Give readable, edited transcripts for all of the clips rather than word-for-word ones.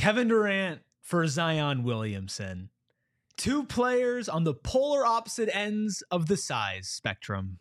Kevin Durant for Zion Williamson. Two players on the polar opposite ends of the size spectrum.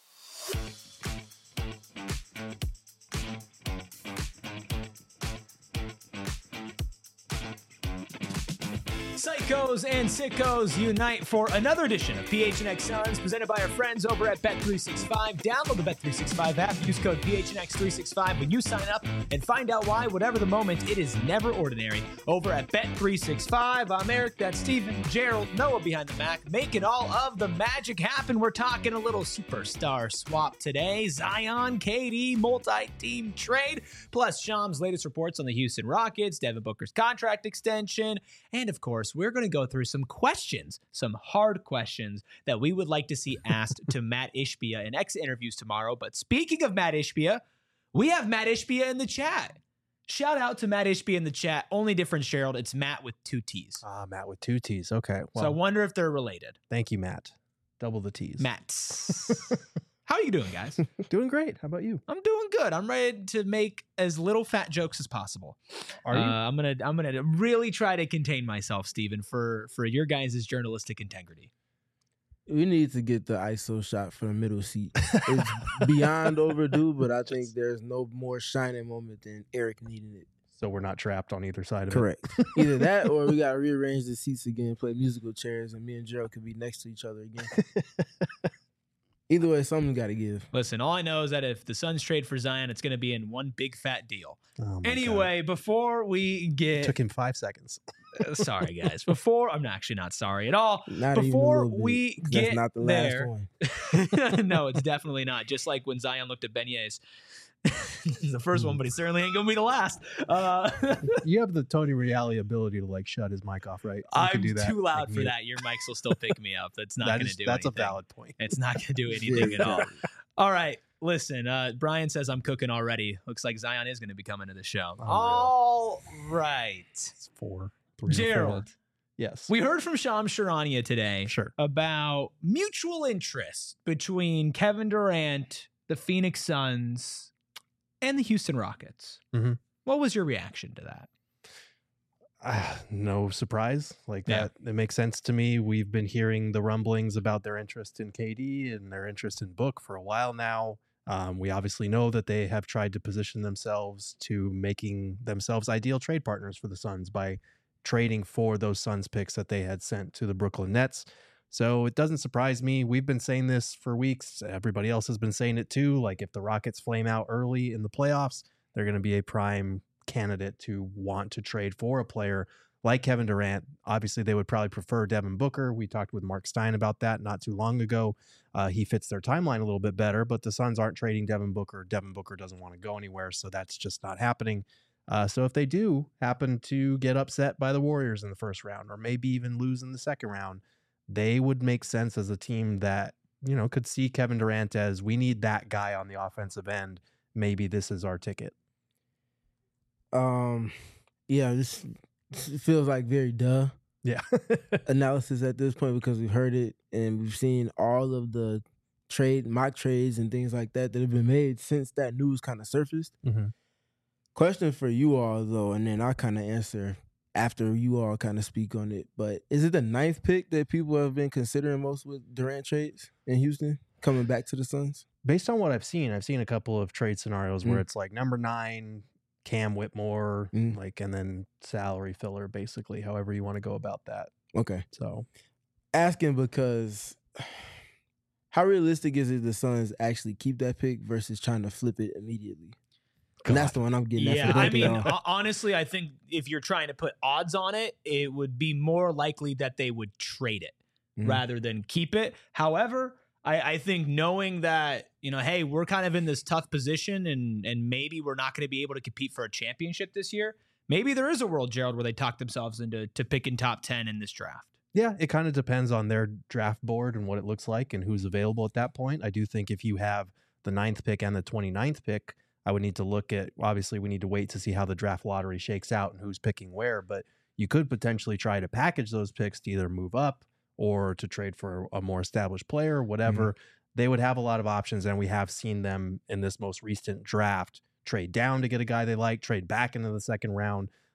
Psychos and sickos unite for another edition of PHNX Suns, presented by our friends over at Bet365. Download the Bet365 app, use code PHNX365 when you sign up, and find out why, whatever the moment, it is never ordinary. Over at Bet365, I'm Eric, that's Steven, Gerald, Noah behind the Mac, making all of the magic happen. We're talking a little superstar swap today. Zion, KD, multi-team trade, plus Shams' latest reports on the Houston Rockets, Devin Booker's contract extension, and of course, we're going to go through some questions, some hard questions that we would like to see asked to Matt Ishbia in X interviews tomorrow. But speaking of Matt Ishbia, we have Matt Ishbia in the chat. Shout out to Matt Ishbia in the chat. Only difference, Gerald, it's Matt with two T's. Matt with two T's. Okay. Well, so I wonder if they're related. Thank you, Matt. Double the T's. Matt. How are you doing, guys? Doing great. How about you? I'm doing good. I'm ready to make as little fat jokes as possible. Are you? I'm gonna really try to contain myself, Steven, for your guys' journalistic integrity. We need to get the ISO shot for the middle seat. It's beyond overdue, but I think there's no more shining moment than Eric needing it. So we're not trapped on either side of Correct. Either that or we got to rearrange the seats again, play musical chairs, and me and Gerald could be next to each other again. Either way, something got to give. Listen, all I know is that if the Suns trade for Zion, it's going to be in one big fat deal. Oh anyway, before we get... It took him 5 seconds. Sorry, guys. I'm actually not sorry at all. Not Before even a little we bit. get That's not the last there... one. No, it's definitely not. Just like when Zion looked at beignets. This is the first one, but he certainly ain't going to be the last. You have the Tony Reali ability to like shut his mic off, right? You I'm can do that, too loud like, for mute. that. Your mics will still pick me up. That's not going to do That's anything. a valid point. It's not going to do anything at all. All right. Listen, Brian says I'm cooking already. Looks like Zion is going to be coming to the show. All right. It's 4, 3, Gerald. 4. Yes. We heard from Shams Charania today about mutual interest between Kevin Durant, the Phoenix Suns, and the Houston Rockets. Mm-hmm. What was your reaction to that? No surprise. That, it makes sense to me. We've been hearing the rumblings about their interest in KD and their interest in Book for a while now. We obviously know that they have tried to position themselves to making themselves ideal trade partners for the Suns by trading for those Suns picks that they had sent to the Brooklyn Nets. So it doesn't surprise me. We've been saying this for weeks. Everybody else has been saying it too. Like if the Rockets flame out early in the playoffs, they're going to be a prime candidate to want to trade for a player like Kevin Durant. Obviously, they would probably prefer Devin Booker. We talked with Mark Stein about that not too long ago. He fits their timeline a little bit better, but the Suns aren't trading Devin Booker. Devin Booker doesn't want to go anywhere, so that's just not happening. So if they do happen to get upset by the Warriors in the first round, or maybe even lose in the second round, they would make sense as a team that, could see Kevin Durant as, we need that guy on the offensive end. Maybe this is our ticket. This feels like very analysis at this point because we've heard it and we've seen all of the mock trades and things like that have been made since that news kind of surfaced. Mm-hmm. Question for you all though, and then I'll kind of answer after you all kind of speak on it, but is it the 9th pick that people have been considering most with Durant trades in Houston coming back to the Suns? Based on what I've seen a couple of trade scenarios where it's like number 9, Cam Whitmore, and then salary filler, basically, however you want to go about that. Okay. So asking because how realistic is it the Suns actually keep that pick versus trying to flip it immediately? And that's the one I'm getting at. Yeah, I mean, honestly, I think if you're trying to put odds on it, it would be more likely that they would trade it rather than keep it. However, I think knowing that, hey, we're kind of in this tough position and maybe we're not going to be able to compete for a championship this year, maybe there is a world, Gerald, where they talk themselves into picking top 10 in this draft. Yeah, it kind of depends on their draft board and what it looks like and who's available at that point. I do think if you have the 9th pick and the 29th pick, I would need to look at, obviously we need to wait to see how the draft lottery shakes out and who's picking where, but you could potentially try to package those picks to either move up or to trade for a more established player, whatever. They would have a lot of options, and we have seen them in this most recent draft trade down to get a guy they like, trade back into the second round.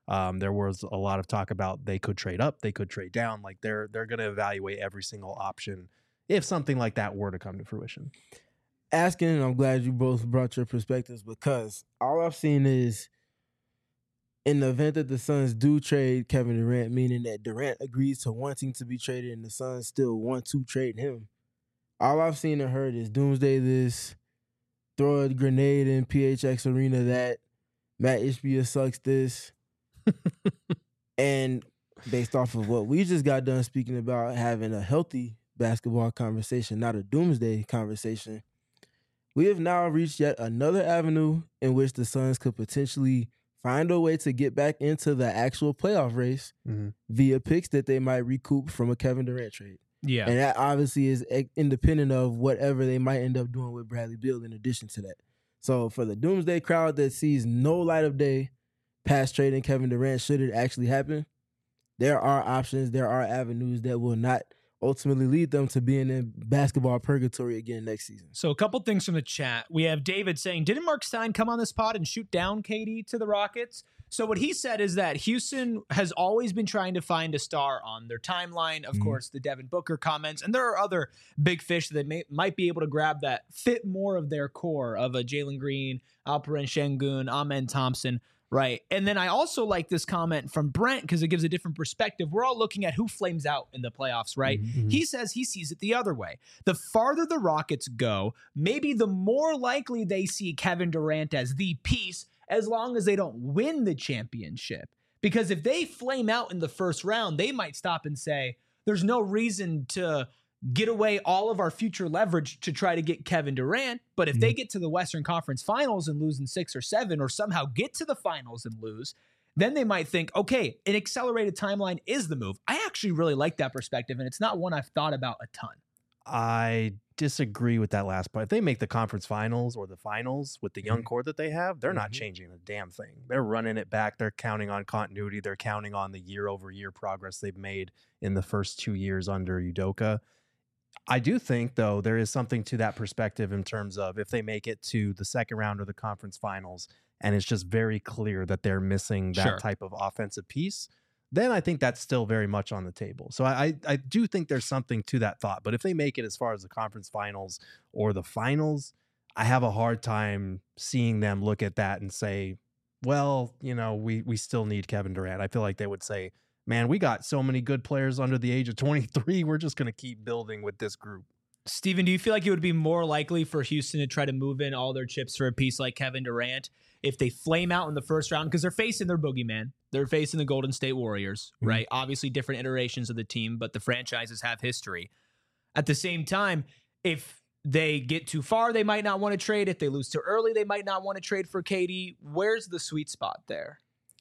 There was a lot of talk about they could trade up, they could trade down. Like they're going to evaluate every single option if something like that were to come to fruition. Asking, and I'm glad you both brought your perspectives, because all I've seen is in the event that the Suns do trade Kevin Durant, meaning that Durant agrees to wanting to be traded and the Suns still want to trade him, all I've seen and heard is doomsday this, throw a grenade in PHX Arena that, Matt Ishbia sucks this. And based off of what we just got done speaking about, having a healthy basketball conversation, not a doomsday conversation, we have now reached yet another avenue in which the Suns could potentially find a way to get back into the actual playoff race via picks that they might recoup from a Kevin Durant trade. Yeah. And that obviously is independent of whatever they might end up doing with Bradley Beal in addition to that. So for the doomsday crowd that sees no light of day past trading Kevin Durant, should it actually happen, there are options, there are avenues that will not ultimately lead them to being in basketball purgatory again next season. So a couple things from the chat. We have David saying, didn't Mark Stein come on this pod and shoot down KD to the Rockets? So what he said is that Houston has always been trying to find a star on their timeline. Of course, the Devin Booker comments, and there are other big fish that might be able to grab that fit more of their core of a Jalen Green, Alperen Şengün, Amen Thompson. Right. And then I also like this comment from Brent because it gives a different perspective. We're all looking at who flames out in the playoffs, right? He says he sees it the other way. The farther the Rockets go, maybe the more likely they see Kevin Durant as the piece, as long as they don't win the championship. Because if they flame out in the first round, they might stop and say, there's no reason to get away all of our future leverage to try to get Kevin Durant. But if they get to the Western Conference Finals and lose in 6 or 7, or somehow get to the finals and lose, then they might think, okay, an accelerated timeline is the move. I actually really like that perspective, and it's not one I've thought about a ton. I disagree with that last part. If they make the conference finals or the finals with the young core that they have, they're not changing a damn thing. They're running it back. They're counting on continuity. They're counting on the year-over-year progress they've made in the first 2 years under Udoka. I do think, though, there is something to that perspective in terms of if they make it to the second round of the conference finals and it's just very clear that they're missing that type of offensive piece, then I think that's still very much on the table. So I do think there's something to that thought. But if they make it as far as the conference finals or the finals, I have a hard time seeing them look at that and say, well, you know, we still need Kevin Durant. I feel like they would say, man, we got so many good players under the age of 23. We're just going to keep building with this group. Steven, do you feel like it would be more likely for Houston to try to move in all their chips for a piece like Kevin Durant if they flame out in the first round? Because they're facing their boogeyman. They're facing the Golden State Warriors, right? Obviously different iterations of the team, but the franchises have history. At the same time, if they get too far, they might not want to trade. If they lose too early, they might not want to trade for KD. Where's the sweet spot there?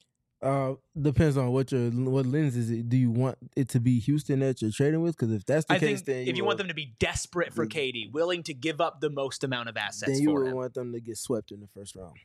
Depends on what lens is it. Do you want it to be Houston that you're trading with? Because if that's the case, then if you want them to be desperate for KD, willing to give up the most amount of assets, then you for would him, want them to get swept in the first round,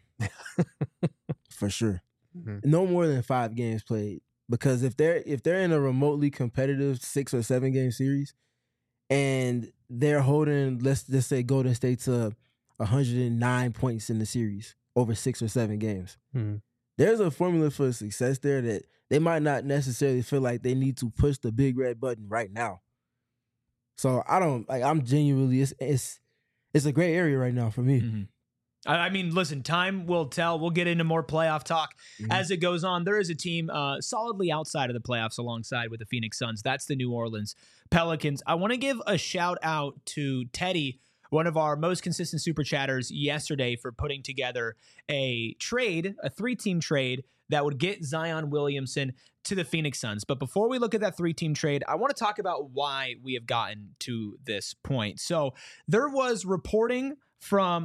for sure. No more than 5 games played, because if they're in a remotely competitive 6 or 7 game series, and they're holding, let's just say Golden State to 109 points in the series over 6 or 7 games. There's a formula for success there that they might not necessarily feel like they need to push the big red button right now. So I'm genuinely, it's a gray area right now for me. I mean, listen, time will tell. We'll get into more playoff talk as it goes on. There is a team solidly outside of the playoffs alongside with the Phoenix Suns. That's the New Orleans Pelicans. I want to give a shout out to Teddy, one of our most consistent super chatters yesterday, for putting together a 3-team trade that would get Zion Williamson to the Phoenix Suns. But before we look at that 3-team trade, I want to talk about why we have gotten to this point. So there was reporting from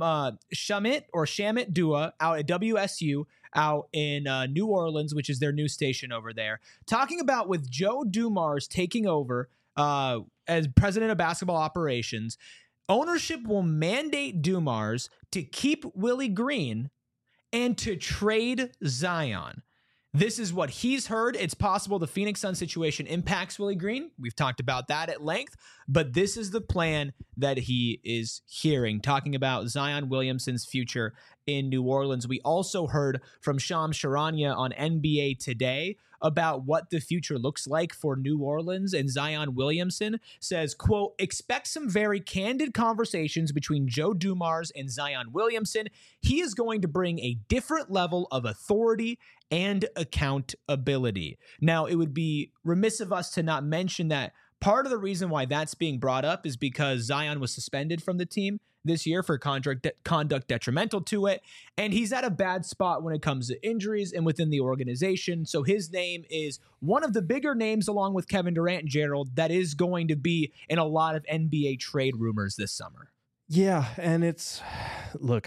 Shamit Dua out at WSU out in New Orleans, which is their news station over there, talking about with Joe Dumars taking over as president of basketball operations, ownership will mandate Dumars to keep Willie Green and to trade Zion. This is what he's heard. It's possible the Phoenix Suns situation impacts Willie Green. We've talked about that at length, but this is the plan that he is hearing, talking about Zion Williamson's future in New Orleans. We also heard from Shams Charania on NBA Today about what the future looks like for New Orleans, and Zion Williamson says, quote, expect some very candid conversations between Joe Dumars and Zion Williamson. He is going to bring a different level of authority and accountability. Now, it would be remiss of us to not mention that part of the reason why that's being brought up is because Zion was suspended from the team this year for conduct detrimental to it, and he's at a bad spot when it comes to injuries and within the organization. So his name is one of the bigger names, along with Kevin Durant and Gerald, that is going to be in a lot of NBA trade rumors this summer. Yeah, and look,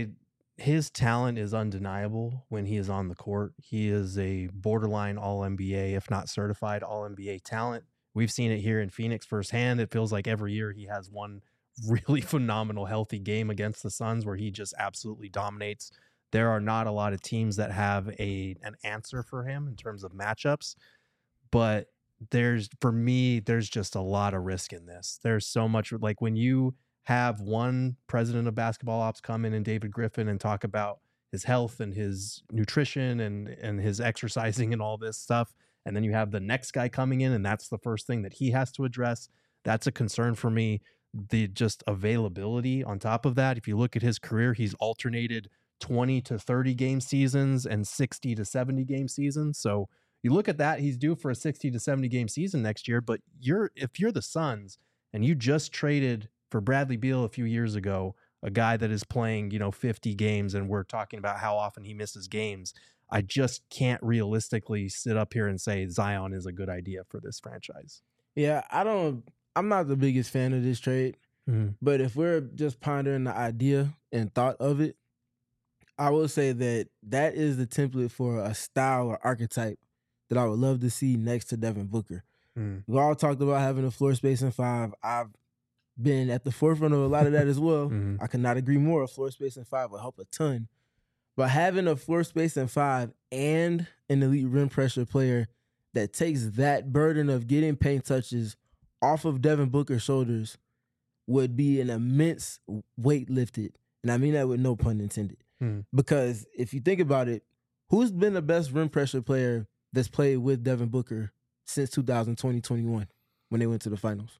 his talent is undeniable when he is on the court. He is a borderline All-NBA, if not certified All-NBA talent. We've seen it here in Phoenix firsthand. It feels like every year he has one really phenomenal, healthy game against the Suns where he just absolutely dominates. There are not a lot of teams that have an answer for him in terms of matchups, but for me, there's just a lot of risk in this. There's so much, like when you have one president of basketball ops come in and David Griffin and talk about his health and his nutrition and his exercising and all this stuff, and then you have the next guy coming in and that's the first thing that he has to address. That's a concern for me. The just availability on top of that. If you look at his career, he's alternated 20 to 30 game seasons and 60 to 70 game seasons. So you look at that, he's due for a 60 to 70 game season next year. But if you're the Suns and you just traded for Bradley Beal a few years ago, a guy that is playing, 50 games, and we're talking about how often he misses games, I just can't realistically sit up here and say Zion is a good idea for this franchise. Yeah, I'm not the biggest fan of this trade, but if we're just pondering the idea and thought of it, I will say that is the template for a style or archetype that I would love to see next to Devin Booker. We all talked about having a floor spacing five. I've been at the forefront of a lot of that as well. I could not agree more. A floor spacing five will help a ton. But having a floor spacing five and an elite rim pressure player that takes that burden of getting paint touches off of Devin Booker's shoulders would be an immense weight lifted. And I mean that with no pun intended. Because if you think about it, who's been the best rim pressure player that's played with Devin Booker since 2020-21 when they went to the finals?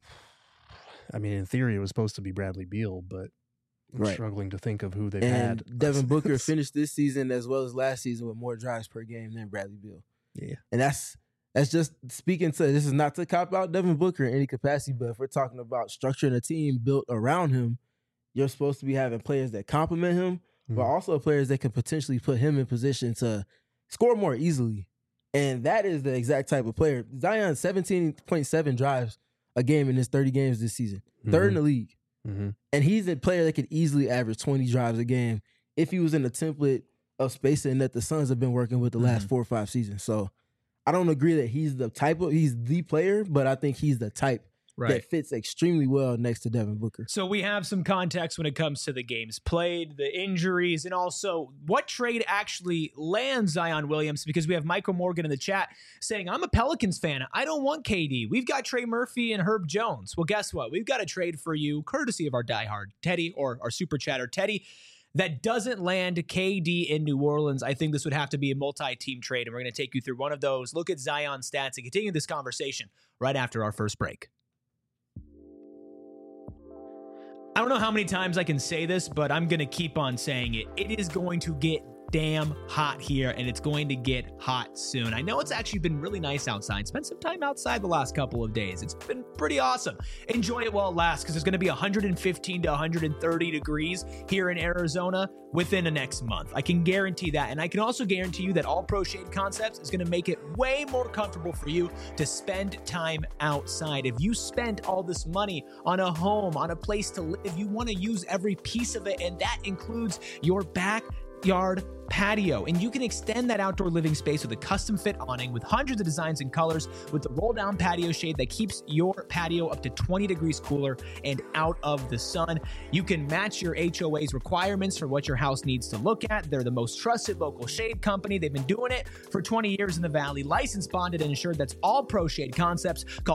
I mean, in theory, it was supposed to be Bradley Beal, but I'm struggling to think of who they've had. Devin Booker finished this season as well as last season with more drives per game than Bradley Beal. Yeah. And that's just speaking to, this is not to cop out Devin Booker in any capacity, but if we're talking about structuring a team built around him, you're supposed to be having players that complement him, but also players that can potentially put him in position to score more easily. And that is the exact type of player. Zion, 17.7 drives a game in his 30 games this season. Third in the league. And he's a player that could easily average 20 drives a game if he was in the template of spacing that the Suns have been working with the last 4 or 5 seasons. So I don't agree that he's the player, but I think he's the type that fits extremely well next to Devin Booker. So we have some context when it comes to the games played, the injuries, and also what trade actually lands Zion Williams, because we have Michael Morgan in the chat saying, I'm a Pelicans fan. I don't want KD. We've got Trey Murphy and Herb Jones. Well, guess what? We've got a trade for you, courtesy of our diehard Teddy, or our super chatter Teddy, that doesn't land KD in New Orleans. I think this would have to be a multi-team trade, and we're going to take you through one of those, look at Zion's stats, and continue this conversation right after our first break. I don't know how many times I can say this, but I'm going to keep on saying it. It is going to get damn hot here, and it's going to get hot soon. I know it's actually been really nice outside. Spent some time outside the last couple of days. It's been pretty awesome. Enjoy it while it lasts, because it's going to be 115 to 130 degrees here in Arizona within the next month. I can guarantee that, and I can also guarantee you that All Pro Shade Concepts is going to make it way more comfortable for you to spend time outside. If you spend all this money on a home, on a place to live, you want to use every piece of it, and that includes your yard patio, and you can extend that outdoor living space with a custom fit awning with hundreds of designs and colors with the roll down patio shade that keeps your patio up to 20 degrees cooler and out of the sun. You can match your HOA's requirements for what your house needs to look at. They're the most trusted local shade company. They've been doing it for 20 years in the Valley. Licensed, bonded, and insured. That's All Pro Shade Concepts. Call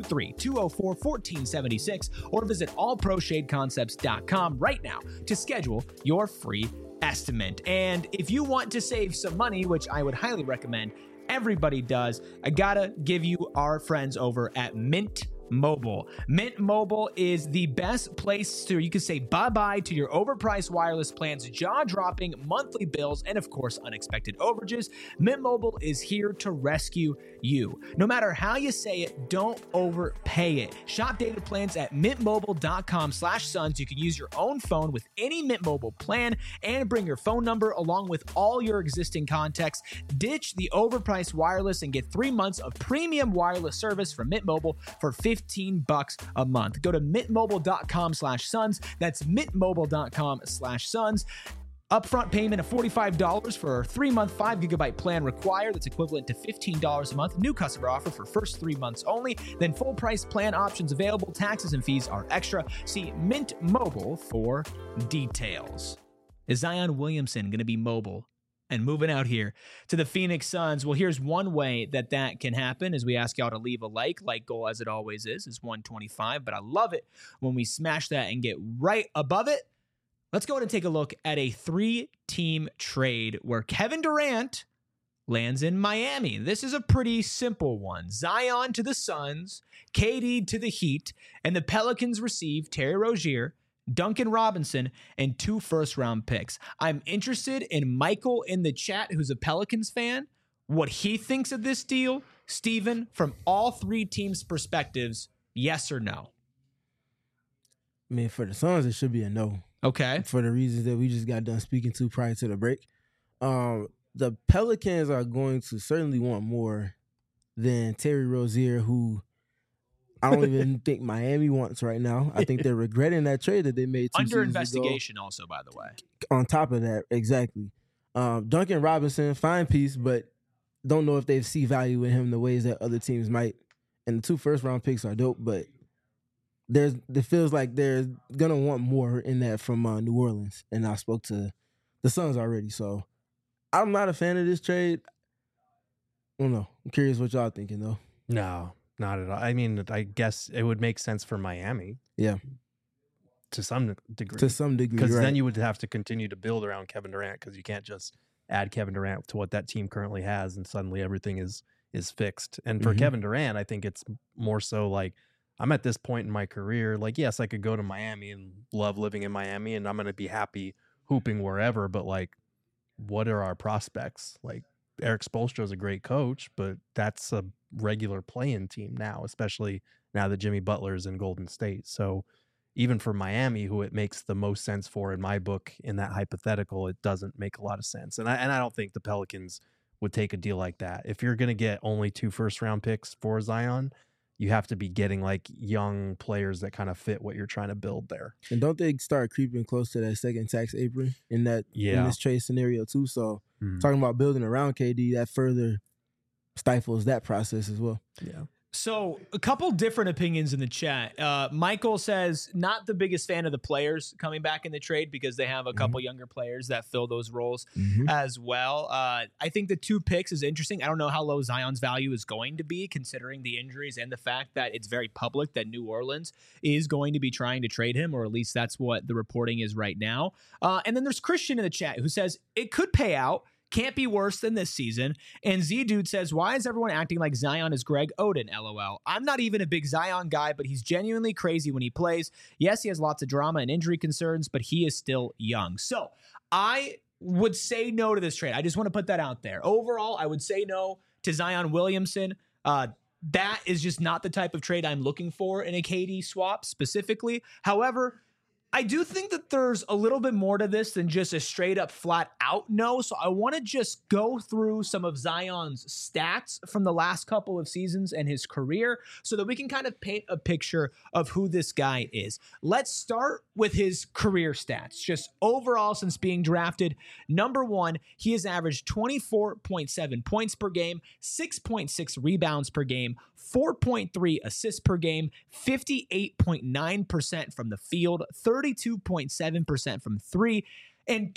623-204-1476 or visit allproshadeconcepts.com right now to schedule your free estimate. And if you want to save some money, which I would highly recommend, everybody does, I gotta give you our friends over at Mint Mobile. Mint Mobile is the best place to, you can say bye-bye to your overpriced wireless plans, jaw-dropping monthly bills, and of course, unexpected overages. Mint Mobile is here to rescue you. No matter how you say it, don't overpay it. Shop data plans at mintmobile.com/sons. You can use your own phone with any Mint Mobile plan and bring your phone number along with all your existing contacts. Ditch the overpriced wireless and get 3 months of premium wireless service from Mint Mobile for $15 a month. Go to mintmobile.com/sons. That's mintmobile.com/sons. Upfront payment of $45 for a 3-month 5GB plan required. That's equivalent to $15 a month. New customer offer for first 3 months only. Then full price plan options available. Taxes and fees are extra. See Mint Mobile for details. Is Zion Williamson going to be mobile and moving out here to the Phoenix Suns? Well, here's one way that can happen as we ask y'all to leave a like goal as it always is 125, but I love it when we smash that and get right above it. Let's go ahead and take a look at a 3-team trade where Kevin Durant lands in Miami. This is a pretty simple one. Zion to the Suns, KD to the Heat, and the Pelicans receive Terry Rozier, Duncan Robinson, and 2 first-round picks. I'm interested in Michael in the chat, who's a Pelicans fan, what he thinks of this deal. Steven, from all 3 teams' perspectives, yes or no? I mean, for the Suns, it should be a no. Okay. For the reasons that we just got done speaking to prior to the break. The Pelicans are going to certainly want more than Terry Rozier, who I don't even think Miami wants right now. I think they're regretting that trade that they made 2 under seasons investigation ago. also, by the way. On top of that, exactly. Duncan Robinson, fine piece, but don't know if they see value in him the ways that other teams might. And the 2 first-round picks are dope, but it feels like they're going to want more in that from New Orleans. And I spoke to the Suns already, so I'm not a fan of this trade. I don't know. I'm curious what y'all thinking, though. No, not at all. I mean, I guess it would make sense for Miami. Yeah. To some degree. Because then you would have to continue to build around Kevin Durant, because you can't just add Kevin Durant to what that team currently has and suddenly everything is fixed. And for Kevin Durant, I think it's more so like, I'm at this point in my career, like, yes, I could go to Miami and love living in Miami and I'm going to be happy hooping wherever, but like, what are our prospects? Like, Eric Spoelstra is a great coach, but that's a regular play-in team now, especially now that Jimmy Butler's in Golden State. So even for Miami, who it makes the most sense for in my book in that hypothetical, it doesn't make a lot of sense. And I don't think the Pelicans would take a deal like that. If you're going to get only 2 first-round picks for Zion, you have to be getting like young players that kind of fit what you're trying to build there. And don't they start creeping close to that second tax apron in this trade scenario too? So talking about building around KD, that further stifles that process as well. Yeah. So a couple different opinions in the chat. Michael says not the biggest fan of the players coming back in the trade because they have a couple younger players that fill those roles as well. I think the 2 picks is interesting. I don't know how low Zion's value is going to be considering the injuries and the fact that it's very public that New Orleans is going to be trying to trade him, or at least that's what the reporting is right now. And then there's Christian in the chat who says it could pay out. Can't be worse than this season. And Z-Dude says, why is everyone acting like Zion is Greg Oden, LOL? I'm not even a big Zion guy, but he's genuinely crazy when he plays. Yes, he has lots of drama and injury concerns, but he is still young. So I would say no to this trade. I just want to put that out there. Overall, I would say no to Zion Williamson. That is just not the type of trade I'm looking for in a KD swap specifically. However, I do think that there's a little bit more to this than just a straight up flat out no. So I want to just go through some of Zion's stats from the last couple of seasons and his career so that we can kind of paint a picture of who this guy is. Let's start with his career stats. Just overall since being drafted, number one, he has averaged 24.7 points per game, 6.6 rebounds per game, 4.3 assists per game, 58.9% from the field, 32.7% from three, and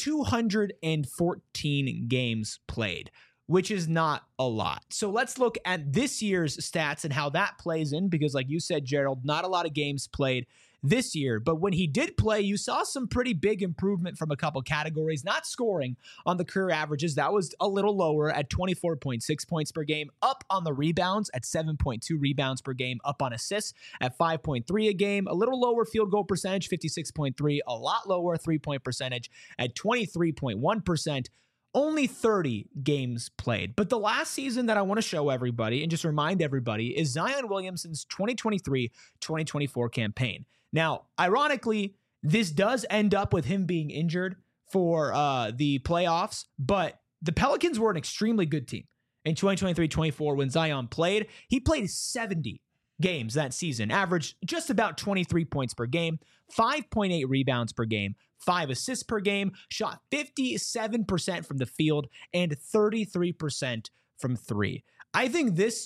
214 games played, which is not a lot. So let's look at this year's stats and how that plays in, because like you said, Gerald, not a lot of games played this year, but when he did play, you saw some pretty big improvement from a couple categories. Not scoring on the career averages, that was a little lower at 24.6 points per game, up on the rebounds at 7.2 rebounds per game, up on assists at 5.3 a game, a little lower field goal percentage, 56.3, a lot lower three-point percentage at 23.1%. Only 30 games played. But the last season that I want to show everybody and just remind everybody is Zion Williamson's 2023-2024 campaign. Now, ironically, this does end up with him being injured for the playoffs, but the Pelicans were an extremely good team in 2023-24 when Zion played. He played 70 games that season, averaged just about 23 points per game, 5.8 rebounds per game, 5 assists per game, shot 57% from the field, and 33% from three. I think this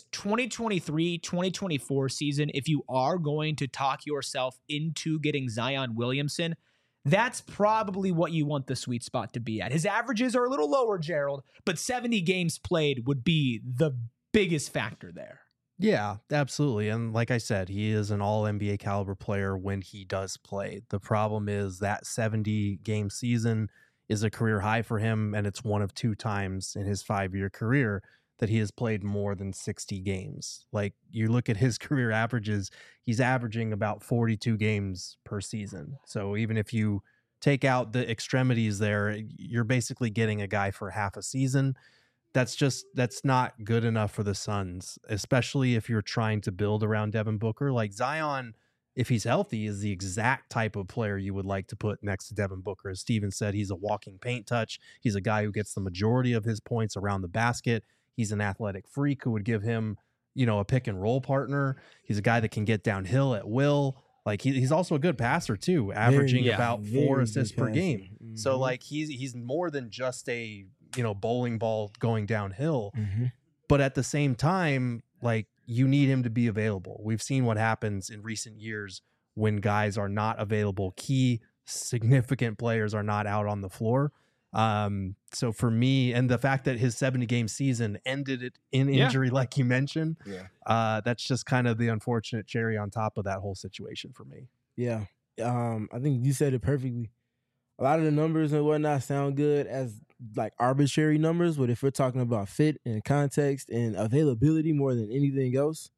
2023-2024 season, if you are going to talk yourself into getting Zion Williamson, that's probably what you want the sweet spot to be at. His averages are a little lower, Gerald, but 70 games played would be the biggest factor there. Yeah, absolutely. And like I said, he is an all NBA caliber player when he does play. The problem is that 70 game season is a career high for him, and it's one of 2 times in his 5-year career that he has played more than 60 games. Like, you look at his career averages, he's averaging about 42 games per season. So even if you take out the extremities there, you're basically getting a guy for half a season. That's not good enough for the Suns, especially if you're trying to build around Devin Booker. Like, Zion, if he's healthy, is the exact type of player you would like to put next to Devin Booker. As Steven said, he's a walking paint touch. He's a guy who gets the majority of his points around the basket. He's an athletic freak who would give him, a pick and roll partner. He's a guy that can get downhill at will. Like, he's also a good passer too, averaging about 4 assists per game. Mm-hmm. So like he's more than just a bowling ball going downhill. Mm-hmm. But at the same time, like, you need him to be available. We've seen what happens in recent years when guys are not available. Key significant players are not out on the floor. So for me, and the fact that his 70-game season ended it in injury, like you mentioned, that's just kind of the unfortunate cherry on top of that whole situation for me. Yeah. I think you said it perfectly. A lot of the numbers and whatnot sound good as like arbitrary numbers, but if we're talking about fit and context and availability more than anything else,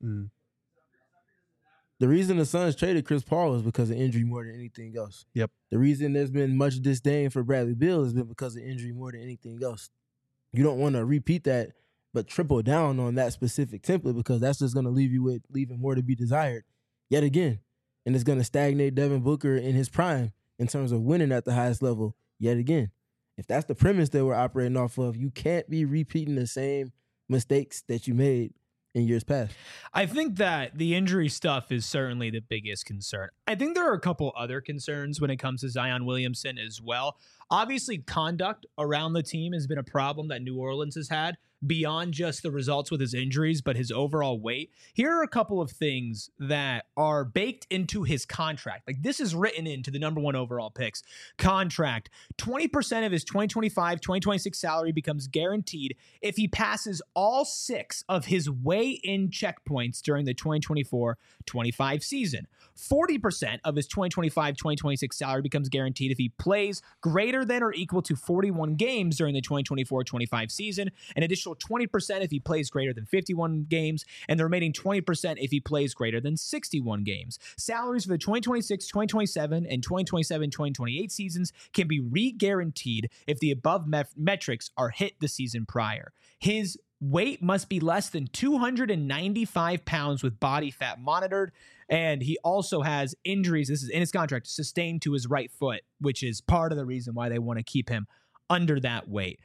the reason the Suns traded Chris Paul is because of injury more than anything else. Yep. The reason there's been much disdain for Bradley Beal has been because of injury more than anything else. You don't want to repeat that, but triple down on that specific template, because that's just going to leave you with leaving more to be desired yet again. And it's going to stagnate Devin Booker in his prime in terms of winning at the highest level yet again. If that's the premise that we're operating off of, you can't be repeating the same mistakes that you made in years past. I think that the injury stuff is certainly the biggest concern. I think there are a couple other concerns when it comes to Zion Williamson as well. Obviously, conduct around the team has been a problem that New Orleans has had, beyond just the results with his injuries, but his overall weight. Here are a couple of things that are baked into his contract. Like, this is written into the number 1 overall picks contract. 20% of his 2025-2026 salary becomes guaranteed if he passes all 6 of his weigh-in checkpoints during the 2024-25 season. 40% of his 2025-2026 salary becomes guaranteed if he plays greater than or equal to 41 games during the 2024-25 season. An additional 20% if he plays greater than 51 games, and the remaining 20% if he plays greater than 61 games. Salaries for the 2026, 2027, and 2027-2028 seasons can be re-guaranteed if the above metrics are hit the season prior. His weight must be less than 295 pounds with body fat monitored. And he also has injuries, this is in his contract, sustained to his right foot, which is part of the reason why they want to keep him under that weight.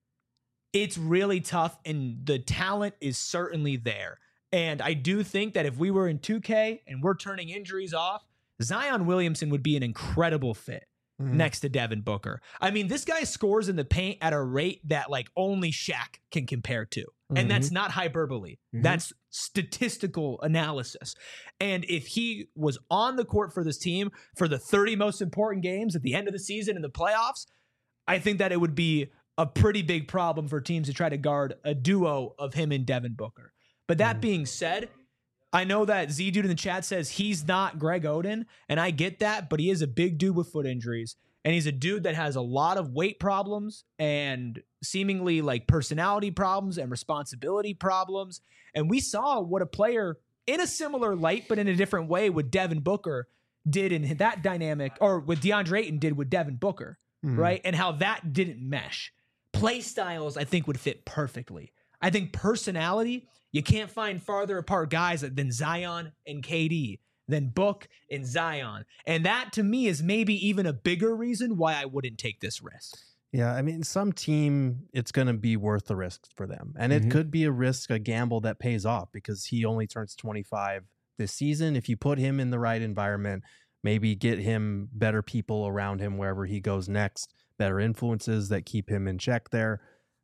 It's really tough, and the talent is certainly there. And I do think that if we were in 2K and we're turning injuries off, Zion Williamson would be an incredible fit next to Devin Booker. I mean, this guy scores in the paint at a rate that like only Shaq can compare to. And that's not hyperbole. That's statistical analysis. And if he was on the court for this team for the 30 most important games at the end of the season in the playoffs, I think that it would be a pretty big problem for teams to try to guard a duo of him and Devin Booker. But that being said, I know that Z-Dude in the chat says he's not Greg Oden, and I get that, but he is a big dude with foot injuries, and he's a dude that has a lot of weight problems and seemingly like personality problems and responsibility problems. And we saw what a player in a similar light, but in a different way, with Devin Booker did in that dynamic, or what DeAndre Ayton did with Devin Booker, right? And how that didn't mesh. Play styles, I think, would fit perfectly. I think personality, you can't find farther apart guys than Zion and KD, than Book and Zion. And that, to me, is maybe even a bigger reason why I wouldn't take this risk. Yeah, I mean, some team, it's going to be worth the risk for them. And it could be a gamble that pays off, because he only turns 25 this season. If you put him in the right environment, maybe get him better people around him wherever he goes next, better influences that keep him in check there,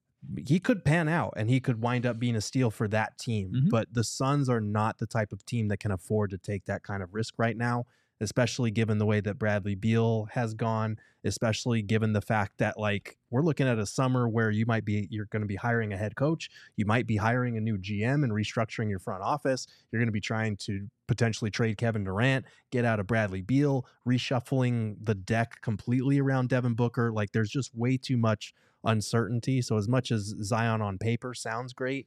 he could pan out and he could wind up being a steal for that team. But the Suns are not the type of team that can afford to take that kind of risk right now, especially given the way that Bradley Beal has gone, especially given the fact that, like, we're looking at a summer where you're going to be hiring a head coach. You might be hiring a new GM and restructuring your front office. You're going to be trying to potentially trade Kevin Durant, get out of Bradley Beal, reshuffling the deck completely around Devin Booker. Like, there's just way too much uncertainty. So as much as Zion on paper sounds great,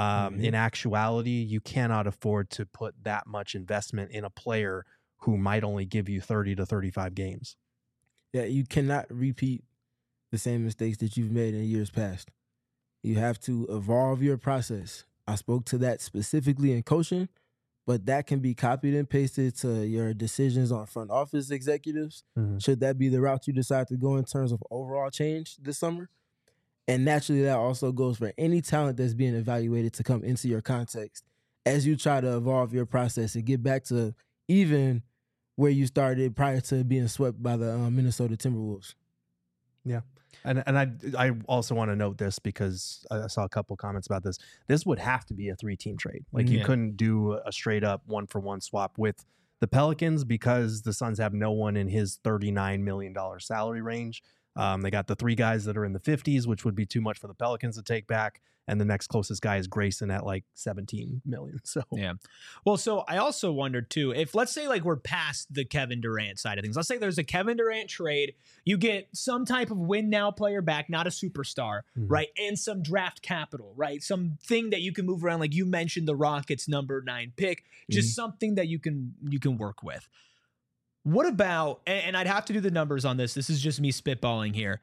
in actuality, you cannot afford to put that much investment in a player who might only give you 30 to 35 games. Yeah, you cannot repeat the same mistakes that you've made in years past. You have to evolve your process. I spoke to that specifically in coaching, but that can be copied and pasted to your decisions on front office executives. Should that be the route you decide to go in terms of overall change this summer? And naturally, that also goes for any talent that's being evaluated to come into your context as you try to evolve your process and get back to even where you started prior to being swept by the Minnesota Timberwolves. Yeah. And I also want to note this, because I saw a couple comments about this. This would have to be a 3-team trade. Like, you couldn't do a straight up 1-for-1 swap with the Pelicans, because the Suns have no one in his $39 million salary range. They got the 3 guys that are in the 50s, which would be too much for the Pelicans to take back. And the next closest guy is Grayson at like 17 million. So, yeah. Well, so I also wondered too, if let's say like we're past the Kevin Durant side of things, let's say there's a Kevin Durant trade, you get some type of win now player back, not a superstar, right? And some draft capital, right? Something that you can move around. Like you mentioned the Rockets number 9 pick, just something that you can work with. What about, and I'd have to do the numbers on this. This is just me spitballing here.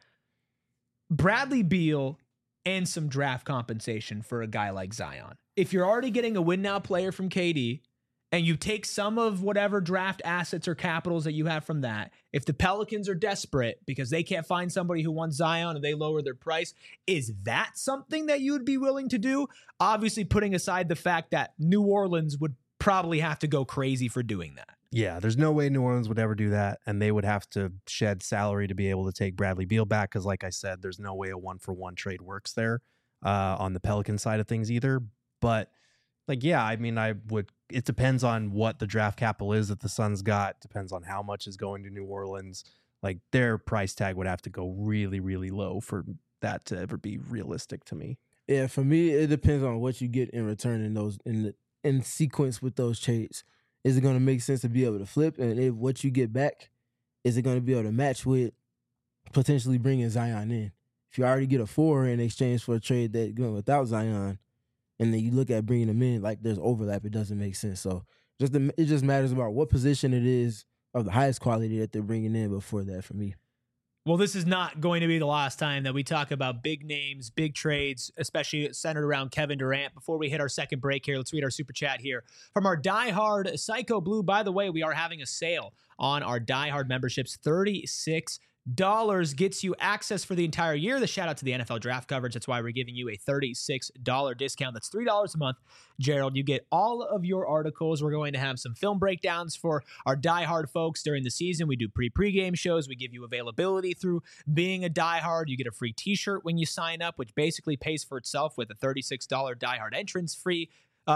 Bradley Beal and some draft compensation for a guy like Zion. If you're already getting a win now player from KD, and you take some of whatever draft assets or capitals that you have from that, if the Pelicans are desperate because they can't find somebody who wants Zion and they lower their price, is that something that you would be willing to do? Obviously, putting aside the fact that New Orleans would probably have to go crazy for doing that. Yeah, there's no way New Orleans would ever do that, and they would have to shed salary to be able to take Bradley Beal back, because like I said, there's no way a 1-for-1 trade works there on the Pelican side of things either. But like, yeah, I mean, it depends on what the draft capital is that the Suns got, depends on how much is going to New Orleans. Like, their price tag would have to go really, really low for that to ever be realistic to me. Yeah, for me, it depends on what you get in return in sequence with those trades. Is it going to make sense to be able to flip? And if what you get back, is it going to be able to match with potentially bringing Zion in? If you already get a 4 in exchange for a trade that going without Zion, and then you look at bringing him in, like there's overlap, it doesn't make sense. So it just matters about what position it is of the highest quality that they're bringing in before that for me. Well, this is not going to be the last time that we talk about big names, big trades, especially centered around Kevin Durant. Before we hit our second break here, let's read our super chat here from our diehard Psycho Blue. By the way, we are having a sale on our diehard memberships. $36 gets you access for the entire year. The shout out to the NFL draft coverage. That's why we're giving you a $36 discount. That's $3 a month. Gerald, you get all of your articles. We're going to have some film breakdowns for our diehard folks during the season. We do pregame shows. We give you availability through being a diehard. You get a free t-shirt when you sign up, which basically pays for itself with a $36 diehard entrance fee.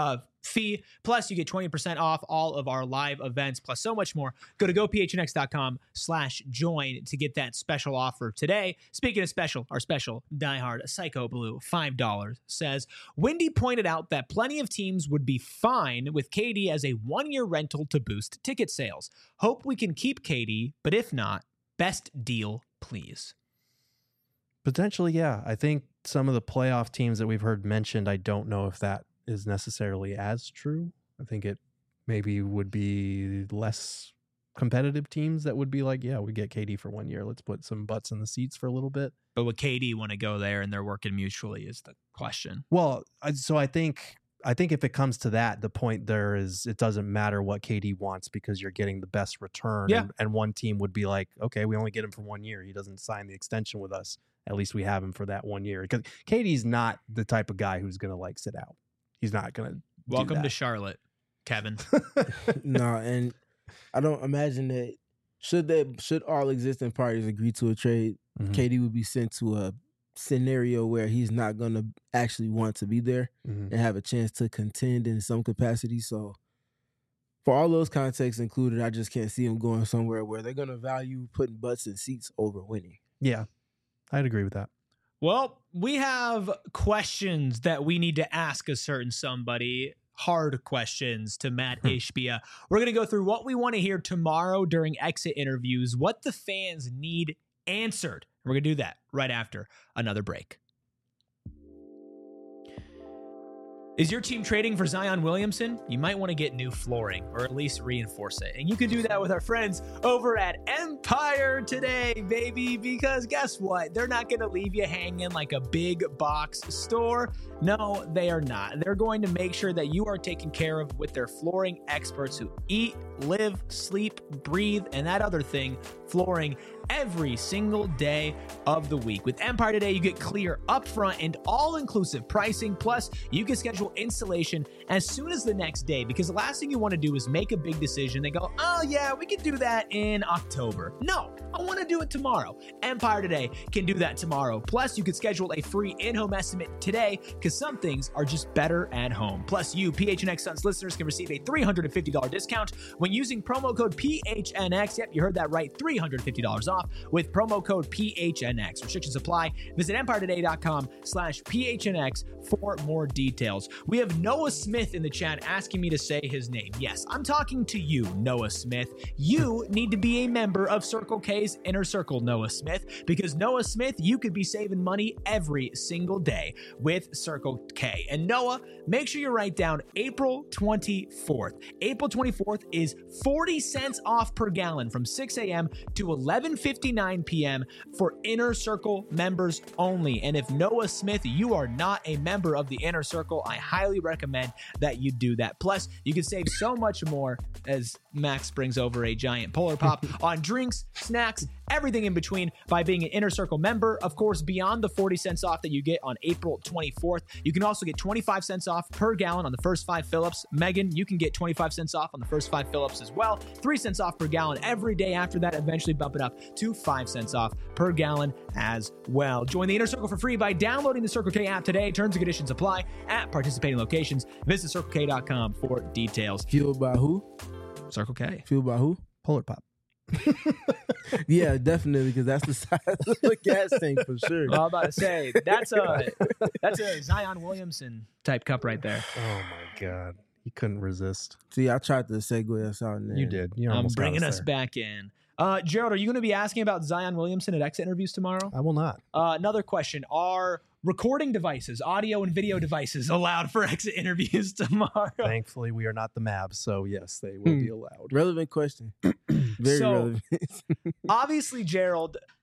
Plus, you get 20% off all of our live events, plus so much more. Go to gophnx.com/join to get that special offer today. Speaking of special, our special diehard Psycho Blue $5 says, Wendy pointed out that plenty of teams would be fine with KD as a one-year rental to boost ticket sales. Hope we can keep KD, but if not, best deal, please. Potentially, yeah. I think some of the playoff teams that we've heard mentioned, I don't know if that is necessarily as true. I think it maybe would be less competitive teams that would be like, yeah, we get KD for 1 year. Let's put some butts in the seats for a little bit. But would KD want to go there and they're working mutually is the question. Well, so I think if it comes to that, the point there is it doesn't matter what KD wants because you're getting the best return. Yeah. And one team would be like, okay, we only get him for 1 year. He doesn't sign the extension with us. At least we have him for that 1 year. Because KD's not the type of guy who's going to like sit out. He's not going to. Welcome to Charlotte, Kevin. No, and I don't imagine that should all existing parties agree to a trade, KD would be sent to a scenario where he's not going to actually want to be there and have a chance to contend in some capacity. So for all those contexts included, I just can't see him going somewhere where they're going to value putting butts in seats over winning. Yeah, I'd agree with that. Well, we have questions that we need to ask a certain somebody. Hard questions to Matt Ishbia. We're going to go through what we want to hear tomorrow during exit interviews, what the fans need answered. We're going to do that right after another break. Is your team trading for Zion Williamson? You might want to get new flooring or at least reinforce it. And you can do that with our friends over at Empire today, baby, because guess what? They're not going to leave you hanging like a big box store. No, they are not. They're going to make sure that you are taken care of with their flooring experts who eat, live, sleep, breathe, and that other thing, flooring, every single day of the week. With Empire today, you get clear upfront and all-inclusive pricing. Plus, you can schedule installation as soon as the next day because the last thing you want to do is make a big decision and go, oh yeah, we can do that in October. No, I want to do it tomorrow. Empire today can do that tomorrow. Plus, you can schedule a free in-home estimate today because some things are just better at home. Plus, you PHNX Suns listeners can receive a $350 discount when using promo code PHNX. Yep, you heard that right, $350 off with promo code PHNX. Restrictions apply. Visit EmpireToday.com/PHNX for more details. We have Noah Smith in the chat asking me to say his name. Yes, I'm talking to you, Noah Smith. You need to be a member of Circle K's Inner Circle, Noah Smith, because Noah Smith, you could be saving money every single day with Circle K. And Noah, make sure you write down April 24th. April 24th is 40 cents off per gallon from 6 a.m. to 11:59 p.m. for Inner Circle members only. And if Noah Smith, you are not a member of the Inner Circle, I highly recommend that you do that. Plus, you can save so much more as Max brings over a giant Polar Pop on drinks, snacks, everything in between by being an Inner Circle member. Of course, beyond the 40 cents off that you get on April 24th, you can also get 25 cents off per gallon on the first 5 fill-ups. Megan, you can get 25 cents off on the first 5 fill-ups as well. 3 cents off per gallon every day after that, eventually bump it up to 5 cents off per gallon as well. Join the Inner Circle for free by downloading the Circle K app today. Terms and conditions apply at participating locations. Visit CircleK.com for details. Fueled by who? Circle K. Fueled by who? Polar Pop. Yeah, definitely, because that's the size of the gas tank for sure. Well, I'm about to say, that's a Zion Williamson type cup right there. Oh my God. He couldn't resist. See, I tried to segue us out in there. You did. You I'm almost got bringing us there. back in. Gerald, are you going to be asking about Zion Williamson at exit interviews tomorrow? I will not. Another question. Are recording devices, audio and video devices, allowed for exit interviews tomorrow? Thankfully, we are not the Mavs, so yes, they will be allowed. Relevant question. Very So, relevant. Obviously, Gerald,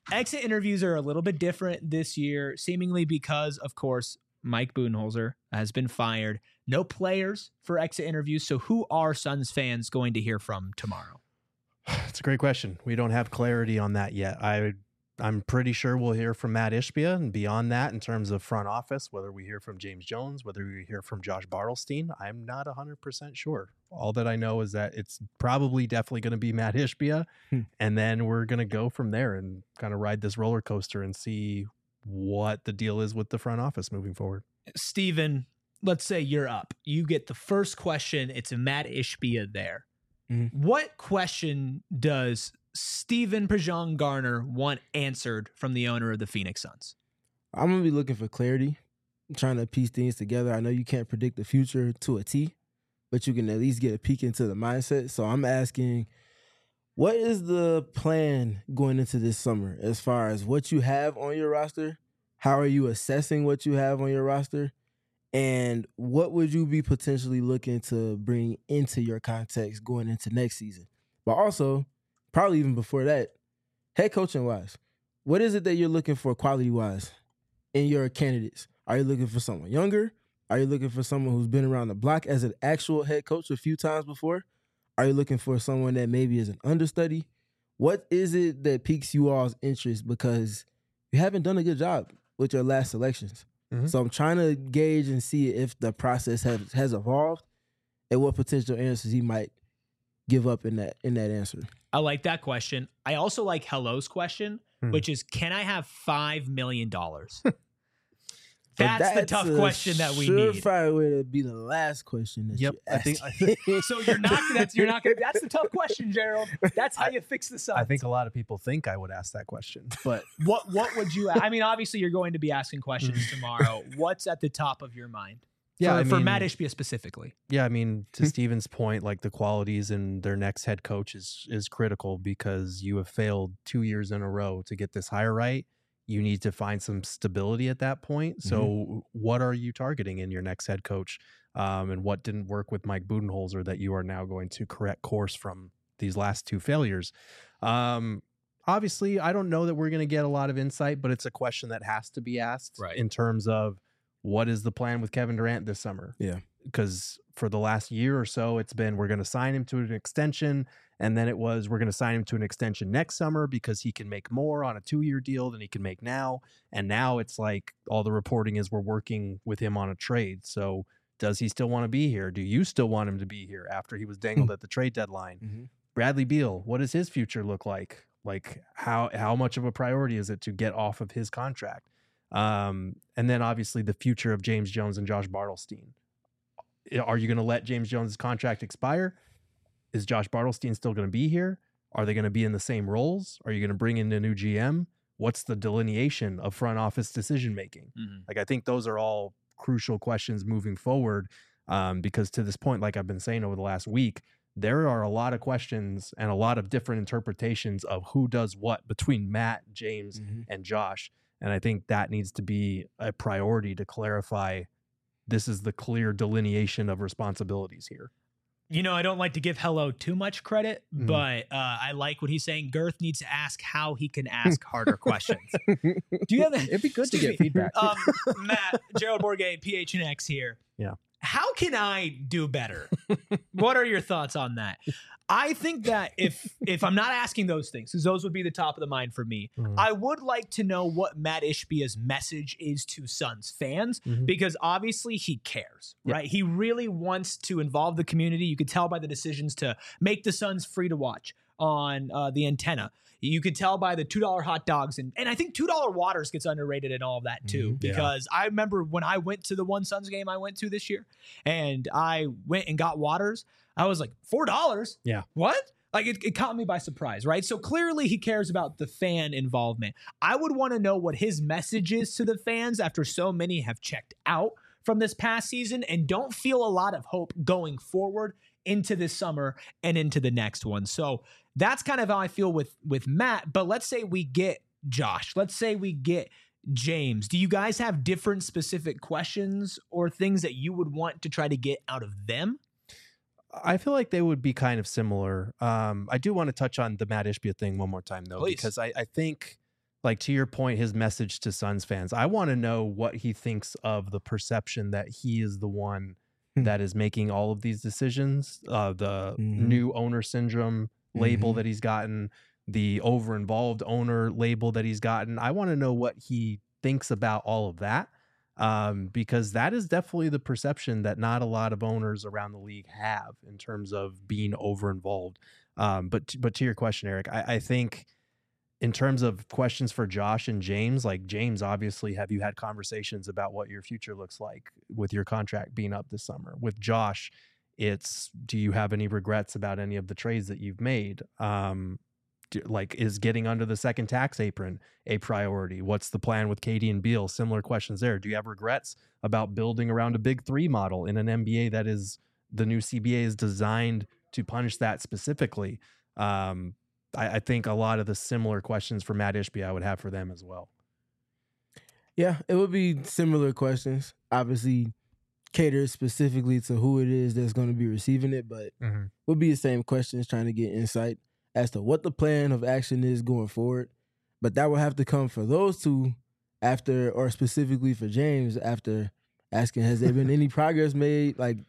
exit interviews are a little bit different this year, seemingly because, of course, Mike Budenholzer has been fired. No players for exit interviews. So who are Suns fans going to hear from tomorrow? It's a great question. We don't have clarity on that yet. I'm pretty sure we'll hear from Matt Ishbia, and beyond that, in terms of front office, whether we hear from James Jones, whether we hear from Josh Bartelstein, I'm not 100% sure. All that I know is that it's probably definitely going to be Matt Ishbia, and then we're going to go from there and kind of ride this roller coaster and see what the deal is with the front office moving forward. Steven, let's say you're up. You get the first question. It's a Matt Ishbia there. Mm-hmm. What question does Steven Prejean Garner want answered from the owner of the Phoenix Suns? I'm going to be looking for clarity. I'm trying to piece things together. I know you can't predict the future to a T, but you can at least get a peek into the mindset. So I'm asking, what is the plan going into this summer as far as what you have on your roster? How are you assessing what you have on your roster? And what would you be potentially looking to bring into your context going into next season? But also, probably even before that, head coaching wise, what is it that you're looking for quality wise in your candidates? Are you looking for someone younger? Are you looking for someone who's been around the block as an actual head coach a few times before? Are you looking for someone that maybe is an understudy? What is it that piques you all's interest? Because you haven't done a good job with your last selections. Mm-hmm. So I'm trying to gauge and see if the process has evolved and what potential answers he might give up in that answer. I like that question. I also like Hello's question, which is, can I have $5 million? That's the tough question that we need. Surefire way to be the last question that you ask. I think so. You're not gonna. That's the tough question, Gerald. That's how you fix the Suns. I think a lot of people think I would ask that question, but what would you? I mean, obviously, you're going to be asking questions tomorrow. What's at the top of your mind? Yeah, for Matt Ishbia specifically. Yeah, I mean, to Steven's point, like the qualities in their next head coach is critical because you have failed 2 years in a row to get this hire right. You need to find some stability at that point. So what are you targeting in your next head coach? And what didn't work with Mike Budenholzer that you are now going to correct course from these last two failures? Obviously, I don't know that we're going to get a lot of insight, but it's a question that has to be asked in terms of what is the plan with Kevin Durant this summer? Yeah. Because for the last year or so, it's been we're going to sign him to an extension. And then it was, we're going to sign him to an extension next summer because he can make more on a 2-year deal than he can make now. And now it's like all the reporting is we're working with him on a trade. So does he still want to be here? Do you still want him to be here after he was dangled at the trade deadline? Bradley Beal, what does his future look like? Like how much of a priority is it to get off of his contract? And then obviously the future of James Jones and Josh Bartelstein. Are you going to let James Jones' contract expire? Is Josh Bartelstein still going to be here? Are they going to be in the same roles? Are you going to bring in a new GM? What's the delineation of front office decision making? Like, I think those are all crucial questions moving forward because to this point, like I've been saying over the last week, there are a lot of questions and a lot of different interpretations of who does what between Matt, James, and Josh. And I think that needs to be a priority to clarify this is the clear delineation of responsibilities here. You know, I don't like to give Hello too much credit, but I like what he's saying. Girth needs to ask how he can ask harder questions. Do you have that? It'd be good to get feedback. Matt, Gerald Bourguet, PHNX here. Yeah. How can I do better? What are your thoughts on that? I think that if I'm not asking those things, because those would be the top of the mind for me, I would like to know what Matt Ishbia's message is to Suns fans, because obviously he cares, right? He really wants to involve the community. You could tell by the decisions to make the Suns free to watch on the antenna. You could tell by the $2 hot dogs. And I think $2 waters gets underrated in all of that too, because I remember when I went to the one Suns game I went to this year and I went and got waters, I was like, $4? Yeah. What? Like it caught me by surprise, right? So clearly he cares about the fan involvement. I would want to know what his message is to the fans after so many have checked out from this past season and don't feel a lot of hope going forward into this summer and into the next one. So that's kind of how I feel with Matt. But let's say we get Josh. Let's say we get James. Do you guys have different specific questions or things that you would want to try to get out of them? I feel like they would be kind of similar. I do want to touch on the Matt Ishbia thing one more time, though, Please. Because I think like to your point, his message to Suns fans, I want to know what he thinks of the perception that he is the one that is making all of these decisions, the new owner syndrome label that he's gotten, the over-involved owner label that he's gotten. I want to know what he thinks about all of that, because that is definitely the perception that not a lot of owners around the league have in terms of being over-involved. But to your question, Eric, I think in terms of questions for Josh and James, like James, obviously, have you had conversations about what your future looks like with your contract being up this summer? With Josh, it's, do you have any regrets about any of the trades that you've made? Like, is getting under the second tax apron a priority? What's the plan with KD and Beal? Similar questions there. Do you have regrets about building around a big three model in an NBA that is, the new CBA is designed to punish that specifically? I think a lot of the similar questions for Matt Ishbia I would have for them as well. Yeah, it would be similar questions. Obviously, catered specifically to who it is that's going to be receiving it, but would be the same questions, trying to get insight as to what the plan of action is going forward. But that will have to come for those two after, or specifically for James, after asking, has there been any progress made? Like,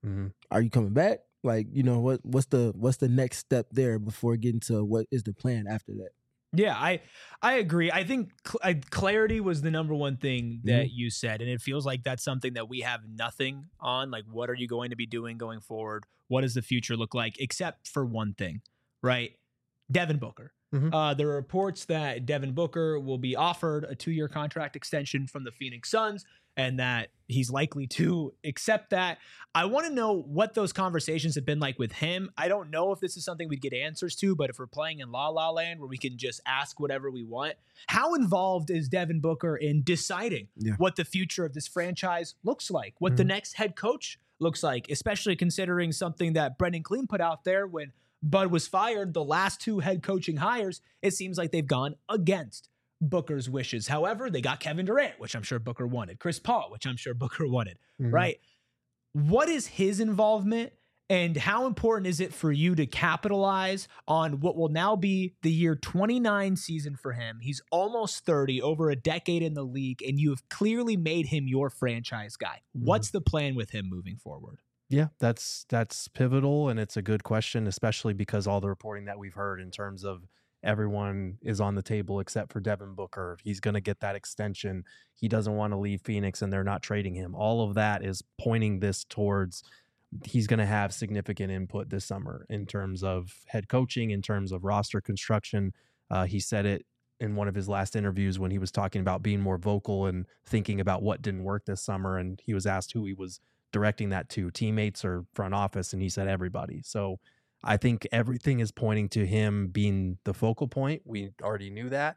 are you coming back? Like, you know, what's the next step there before getting to what is the plan after that? Yeah, I agree. I think clarity was the number one thing that you said, and it feels like that's something that we have nothing on. Like, what are you going to be doing going forward? What does the future look like? Except for one thing, right? Devin Booker. There are reports that Devin Booker will be offered a 2-year contract extension from the Phoenix Suns, and that he's likely to accept that. I want to know what those conversations have been like with him. I don't know if this is something we'd get answers to, but if we're playing in La La Land where we can just ask whatever we want, how involved is Devin Booker in deciding what the future of this franchise looks like, what the next head coach looks like, especially considering something that Brendan Clean put out there when Bud was fired, the last 2 head coaching hires, it seems like they've gone against Booker's wishes. However, they got Kevin Durant, which I'm sure Booker wanted, Chris Paul, which I'm sure Booker wanted, right? What is his involvement, and how important is it for you to capitalize on what will now be the year 29 season for him? He's almost 30, over a decade in the league, and you have clearly made him your franchise guy. What's the plan with him moving forward? Yeah, that's pivotal, and it's a good question, especially because all the reporting that we've heard in terms of everyone is on the table except for Devin Booker. He's going to get that extension. He doesn't want to leave Phoenix, and they're not trading him. All of that is pointing this towards he's going to have significant input this summer in terms of head coaching, in terms of roster construction. He said it in one of his last interviews when he was talking about being more vocal and thinking about what didn't work this summer, and he was asked who he was directing that to, teammates or front office, and he said everybody. So I think everything is pointing to him being the focal point. We already knew that,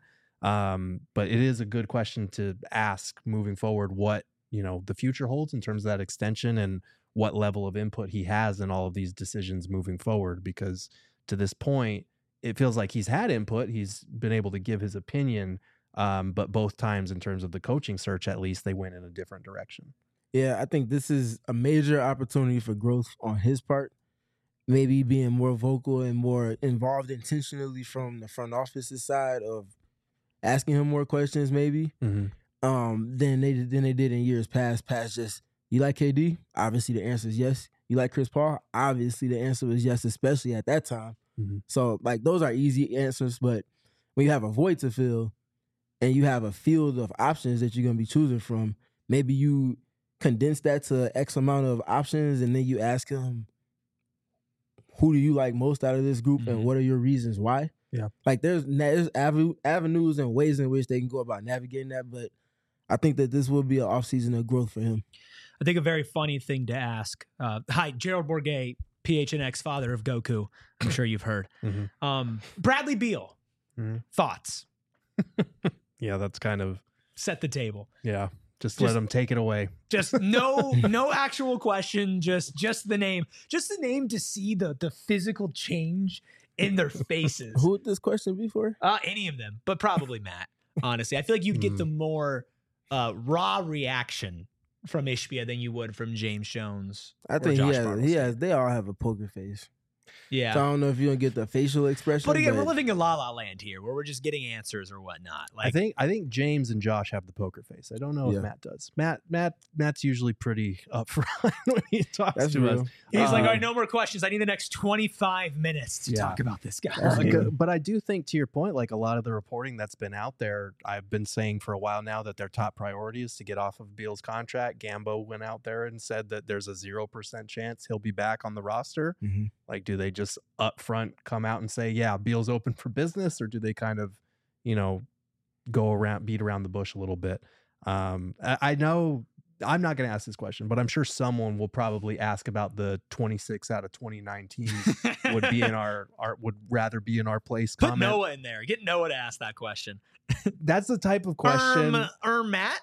but it is a good question to ask moving forward what, you know, the future holds in terms of that extension and what level of input he has in all of these decisions moving forward, because to this point it feels like he's had input, he's been able to give his opinion, but both times in terms of the coaching search, at least they went in a different direction. Yeah, I think this is a major opportunity for growth on his part. Maybe being more vocal and more involved intentionally from the front office's side of asking him more questions, maybe, than they did in years past. Just, you like KD? Obviously the answer is yes. You like Chris Paul? Obviously the answer was yes, especially at that time. So, like, those are easy answers, but when you have a void to fill and you have a field of options that you're going to be choosing from, maybe you condense that to X amount of options, and then you ask him, who do you like most out of this group, and what are your reasons why? Yeah, like there's avenues and ways in which they can go about navigating that, but I think that this will be an offseason of growth for him. I think a very funny thing to ask. Hi, Gerald Bourguet, PHNX, father of Goku. I'm sure you've heard. Bradley Beal, thoughts? Yeah, that's kind of set the table. Yeah. Just let them take it away. Just no actual question. Just the name. Just the name to see the physical change in their faces. Who would this question be for? Any of them, but probably Matt. Honestly, I feel like you'd get the more raw reaction from Ishbia than you would from James Jones. I think he has. They all have a poker face. Yeah. So I don't know if you don't get the facial expression. But again, we're living in La La Land here, where we're just getting answers or whatnot. Like, I think James and Josh have the poker face. I don't know if Matt does. Matt's usually pretty upfront when he talks to us. He's like, all right, no more questions. I need the next 25 minutes to talk about this guy. But I do think, to your point, like a lot of the reporting that's been out there, I've been saying for a while now that their top priority is to get off of Beal's contract. Gambo went out there and said that there's a 0% chance he'll be back on the roster. Mm-hmm. Like, do they just up front come out and say, yeah, Beal's open for business, or do they kind of, beat around the bush a little bit? I know I'm not going to ask this question, but I'm sure someone will probably ask about the 26 out of 29 teams would be in would rather be in our place. Put Noah in there. Get Noah to ask that question. That's the type of question. Matt.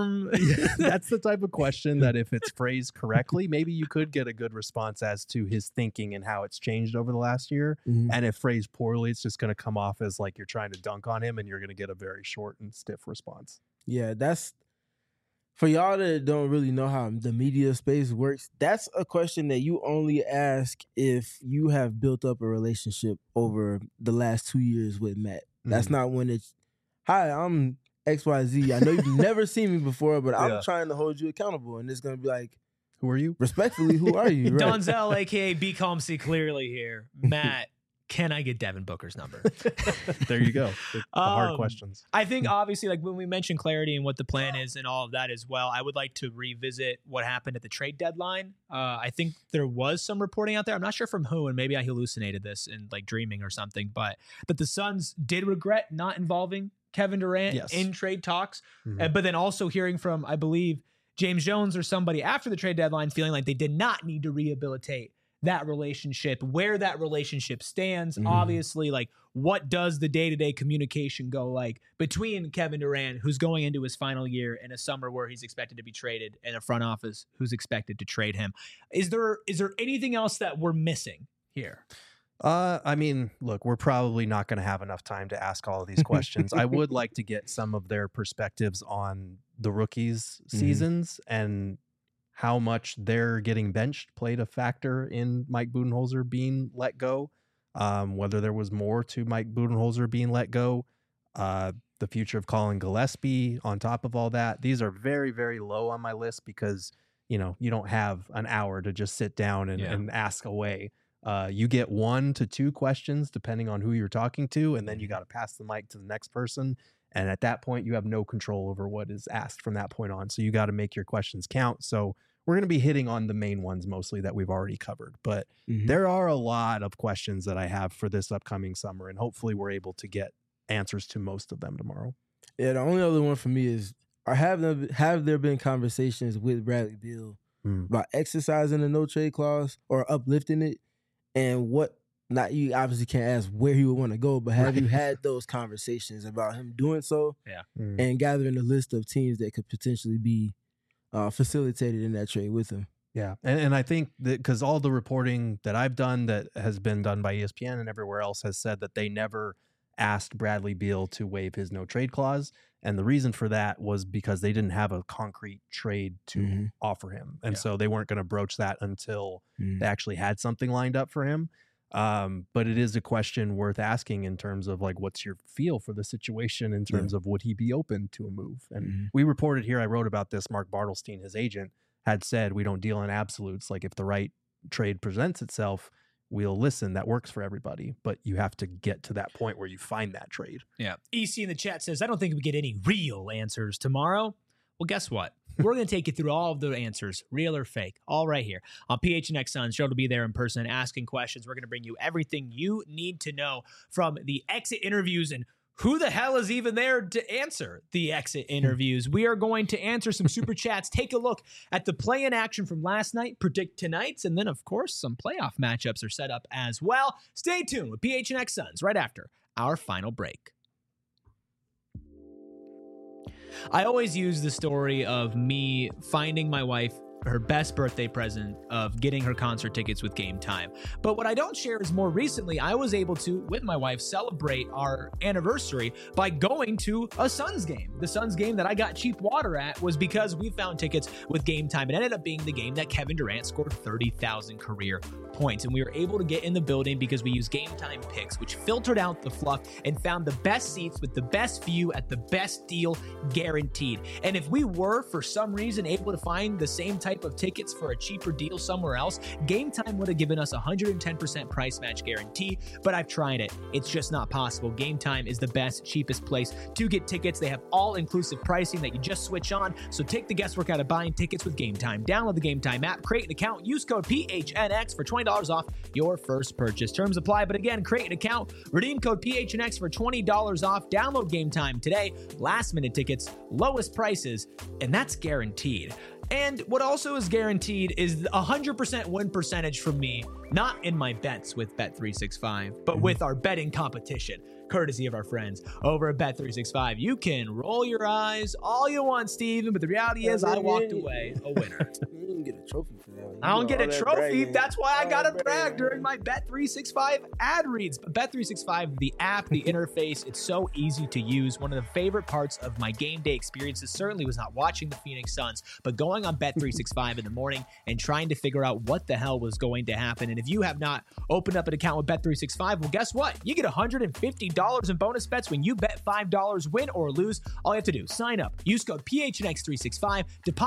That's the type of question that if it's phrased correctly, maybe you could get a good response as to his thinking and how it's changed over the last year. Mm-hmm. And if phrased poorly, it's just going to come off as like you're trying to dunk on him, and you're going to get a very short and stiff response. Yeah, that's for y'all that don't really know how the media space works. That's a question that you only ask if you have built up a relationship over the last 2 years with Matt. That's not when it's, hi, I'm XYZ. I know you've never seen me before, but I'm trying to hold you accountable. And it's going to be like, who are you? Respectfully, who are you? Right? Donzel, a.k.a. Be Calm, See Clearly here. Matt, can I get Devin Booker's number? There you go. The hard questions. I think obviously, like when we mentioned clarity and what the plan is and all of that as well, I would like to revisit what happened at the trade deadline. I think there was some reporting out there. I'm not sure from who, and maybe I hallucinated this in like dreaming or something, but that the Suns did regret not involving Kevin Durant in trade talks. Mm-hmm. But then also hearing from, I believe, James Jones or somebody after the trade deadline feeling like they did not need to rehabilitate that relationship, where that relationship stands. Obviously, like what does the day-to-day communication go like between Kevin Durant, who's going into his final year, in a summer where he's expected to be traded, and a front office who's expected to trade him? Is there anything else that we're missing here? I mean, look, we're probably not going to have enough time to ask all of these questions. I would like to get some of their perspectives on the rookies' seasons and how much their getting benched played a factor in Mike Budenholzer being let go, whether there was more to Mike Budenholzer being let go, the future of Colin Gillespie on top of all that. These are very, very low on my list because, you don't have an hour to just sit down and ask away. You get 1 to 2 questions depending on who you're talking to, and then you got to pass the mic to the next person. And at that point, you have no control over what is asked from that point on. So you got to make your questions count. So we're going to be hitting on the main ones mostly that we've already covered. But there are a lot of questions that I have for this upcoming summer, and hopefully we're able to get answers to most of them tomorrow. Yeah, the only other one for me is, have there been conversations with Bradley Beal about exercising the no-trade clause or uplifting it? And not you obviously can't ask where he would want to go, but have you had those conversations about him doing so? Yeah. And gathering a list of teams that could potentially be facilitated in that trade with him. Yeah. And I think that because all the reporting that I've done that has been done by ESPN and everywhere else has said that they never asked Bradley Beal to waive his no trade clause. And the reason for that was because they didn't have a concrete trade to offer him. And so they weren't going to broach that until they actually had something lined up for him. But it is a question worth asking in terms of like, what's your feel for the situation in terms of would he be open to a move? And we reported here, I wrote about this, Mark Bartelstein, his agent, had said, we don't deal in absolutes. Like if the right trade presents itself, we'll listen. That works for everybody, but you have to get to that point where you find that trade. Yeah. EC in the chat says, I don't think we get any real answers tomorrow. Well, guess what? We're going to take you through all of the answers, real or fake, all right here on PHNX Suns. Joe will be there in person asking questions. We're going to bring you everything you need to know from the exit interviews and who the hell is even there to answer the exit interviews. We are going to answer some super chats, take a look at the play-in action from last night, predict tonight's, and then, of course, some playoff matchups are set up as well. Stay tuned with PHNX Suns right after our final break. I always use the story of me finding my wife her best birthday present of getting her concert tickets with Game Time. But what I don't share is more recently, I was able to, with my wife, celebrate our anniversary by going to a Suns game. The Suns game that I got cheap water at was because we found tickets with Game Time. It ended up being the game that Kevin Durant scored 30,000 career points. And we were able to get in the building because we used Game Time picks, which filtered out the fluff and found the best seats with the best view at the best deal guaranteed. And if we were, for some reason, able to find the same type of tickets for a cheaper deal somewhere else, Game Time would have given us 110% price match guarantee, but I've tried it. It's just not possible. Game Time is the best, cheapest place to get tickets. They have all-inclusive pricing that you just switch on, so take the guesswork out of buying tickets with Game Time. Download the Game Time app, create an account, use code PHNX for $20 off your first purchase. Terms apply, but again, create an account, redeem code PHNX for $20 off. Download Game Time today. Last-minute tickets, lowest prices, and that's guaranteed. And what also is guaranteed is 100% win percentage from me, not in my bets with Bet365, but with our betting competition, courtesy of our friends over at Bet365. You can roll your eyes all you want, Steven, but the reality is I walked away a winner. You didn't get a trophy for that. I don't get a trophy. That's why I got to brag during my Bet365 ad reads. But Bet365, the app, the interface, it's so easy to use. One of the favorite parts of my game day experiences certainly was not watching the Phoenix Suns, but going on Bet365 in the morning and trying to figure out what the hell was going to happen. And if you have not opened up an account with Bet365, well, guess what? You get $150 in bonus bets when you bet $5, win or lose. All you have to do, sign up, use code PHNX365,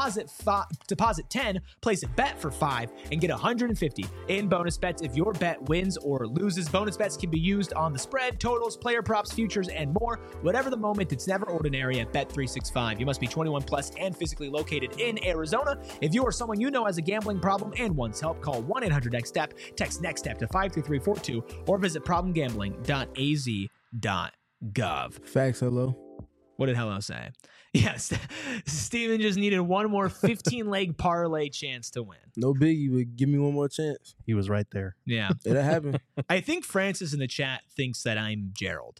deposit 10, place a bet for 5, and get $150 in bonus bets if your bet wins or loses. Bonus bets can be used on the spread, totals, player props, futures, and more. Whatever the moment, it's never ordinary at Bet365. You must be 21 plus and physically located in Arizona. If you or someone you know has a gambling problem and wants help, call 1-800-NEXT-STEP, text NEXT-STEP to 53342, or visit problemgambling.az.gov. Facts, hello. What did Hello say? Yes, Steven just needed one more 15-leg parlay chance to win. No biggie, but give me one more chance. He was right there. Yeah. It'll happen. I think Francis in the chat thinks that I'm Gerald.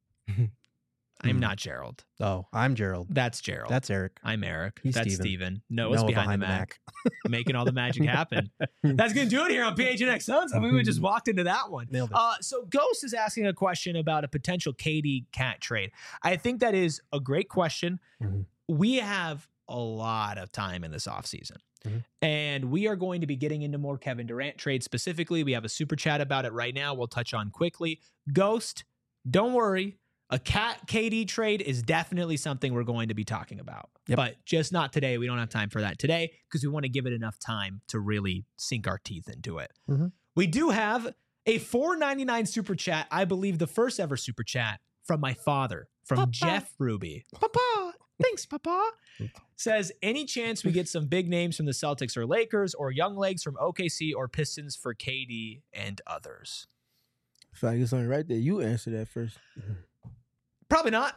I'm not Gerald. Oh, I'm Gerald. That's Gerald. That's Eric. I'm Eric. He's That's Steven. Noah's behind the Mac. Making all the magic happen. That's going to do it here on PHNX Suns. I mean, we just walked into that one. Nailed it. So Ghost is asking a question about a potential KD Cat trade. I think that is a great question. Mm-hmm. We have a lot of time in this offseason. And we are going to be getting into more Kevin Durant trades specifically. We have a super chat about it right now. We'll touch on quickly. Ghost, don't worry. A Cat KD trade is definitely something we're going to be talking about, but just not today. We don't have time for that today because we want to give it enough time to really sink our teeth into it. We do have a $4.99 super chat. I believe the first ever super chat from my father, from Papa. Jeff Ruby. Papa. Thanks, Papa. Says, any chance we get some big names from the Celtics or Lakers or young legs from OKC or Pistons for KD and others? I feel like it's only right there. You answer that first. Probably not.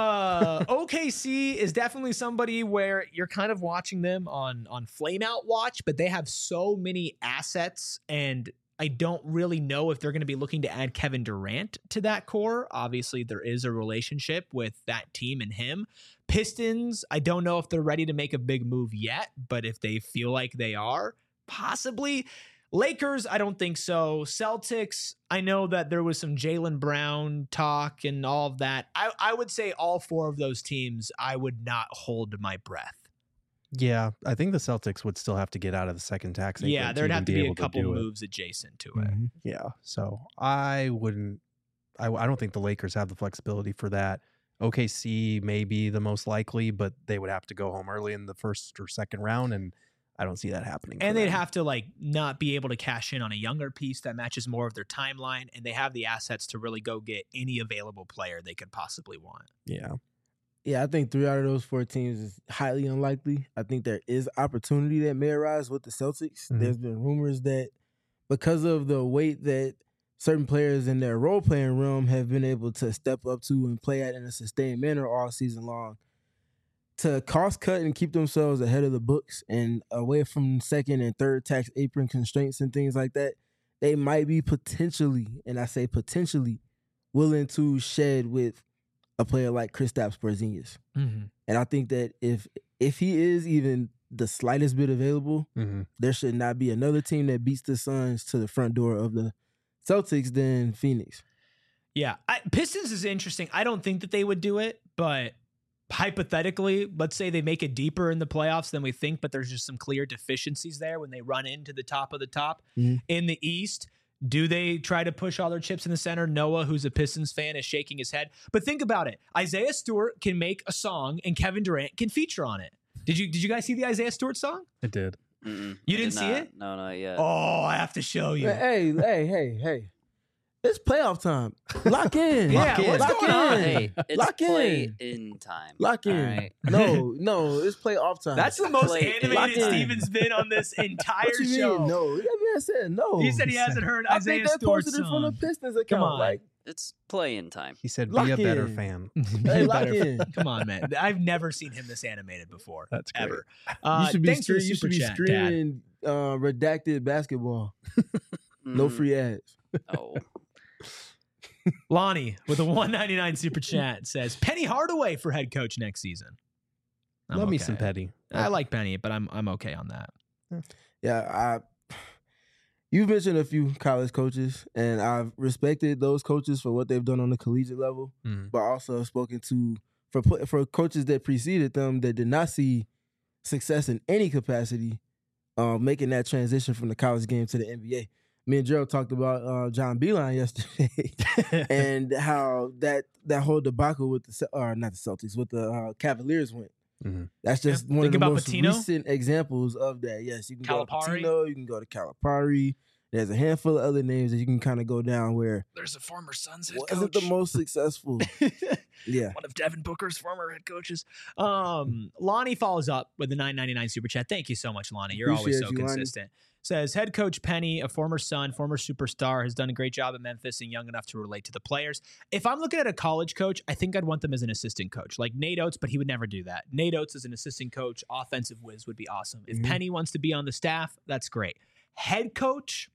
OKC is definitely somebody where you're kind of watching them on flameout watch, but they have so many assets, and I don't really know if they're going to be looking to add Kevin Durant to that core. Obviously, there is a relationship with that team and him. Pistons, I don't know if they're ready to make a big move yet, but if they feel like they are, possibly. Lakers, I don't think so. Celtics, I know that there was some Jaylen Brown talk and all of that. I would say all four of those teams, I would not hold my breath. Yeah, I think the Celtics would still have to get out of the second tax. Yeah, there'd have to be a couple moves adjacent to it. Yeah, so I wouldn't. I don't think the Lakers have the flexibility for that. OKC may be the most likely, but they would have to go home early in the first or second round, and I don't see that happening. And they'd have to not be able to cash in on a younger piece that matches more of their timeline, and they have the assets to really go get any available player they could possibly want. Yeah. Yeah, I think 3 out of those 4 teams is highly unlikely. I think there is opportunity that may arise with the Celtics. There's been rumors that because of the weight that certain players in their role-playing realm have been able to step up to and play at in a sustained manner all season long, to cost cut and keep themselves ahead of the books and away from second and third tax apron constraints and things like that, they might be potentially, and I say potentially, willing to shed with a player like Kristaps Porzingis. And I think that if he is even the slightest bit available, there should not be another team that beats the Suns to the front door of the Celtics than Phoenix. Yeah. Pistons is interesting. I don't think that they would do it, but hypothetically, let's say they make it deeper in the playoffs than we think, but there's just some clear deficiencies there when they run into the top of the top. In the East, do they try to push all their chips in the center? Noah, who's a Pistons fan, is shaking his head. But think about it. Isaiah Stewart can make a song and Kevin Durant can feature on it. Did you guys see the Isaiah Stewart song? I did. You didn't see it? No, not yet. Oh, I have to show you. Hey. It's playoff time. Lock in. Yeah, what's going on? Hey, it's Lock play in. in time. Lock in. All right. No, it's playoff time. That's the most Play animated in. Steven's been on this entire what you show. mean? No, that man said no. He said he hasn't heard I Isaiah think they Stewart's posted it from the song. Pistons account. Come on. Like, It's play in time. He said, Lock be a better in. fan. hey, lock in. Come on, man. I've never seen him this animated before. That's great. Ever. You should be, Thanks for the you super should be chat, Dad. screaming redacted basketball. No free ads. Oh, Lonnie with a $1.99 super chat says Penny Hardaway for head coach next season. I'm Love me okay. some Petty. I like Penny, but I'm okay on that. Yeah, you've mentioned a few college coaches, and I've respected those coaches for what they've done on the collegiate level, but also have spoken to for coaches that preceded them that did not see success in any capacity, making that transition from the college game to the NBA. Me and Gerald talked about John Beilein yesterday, and how that whole debacle with not the Celtics, with the Cavaliers went. That's just one Think of the about most Pitino? recent examples of that. Yes, you can go to Calipari? Pitino, you can go to Calipari. There's a handful of other names that you can kind of go down where There's a former Suns head wasn't the most successful. Yeah. One of Devin Booker's former head coaches. Lonnie follows up with the $9.99 super chat. Thank you so much, Lonnie. You're always Appreciate so you, Lonnie. consistent. Says head coach Penny, a former Sun, former superstar, has done a great job at Memphis and young enough to relate to the players. If I'm looking at a college coach, I think I'd want them as an assistant coach, like Nate Oates, but he would never do that. Nate Oates as an assistant coach, offensive whiz would be awesome. If Penny wants to be on the staff, that's great. Head coach,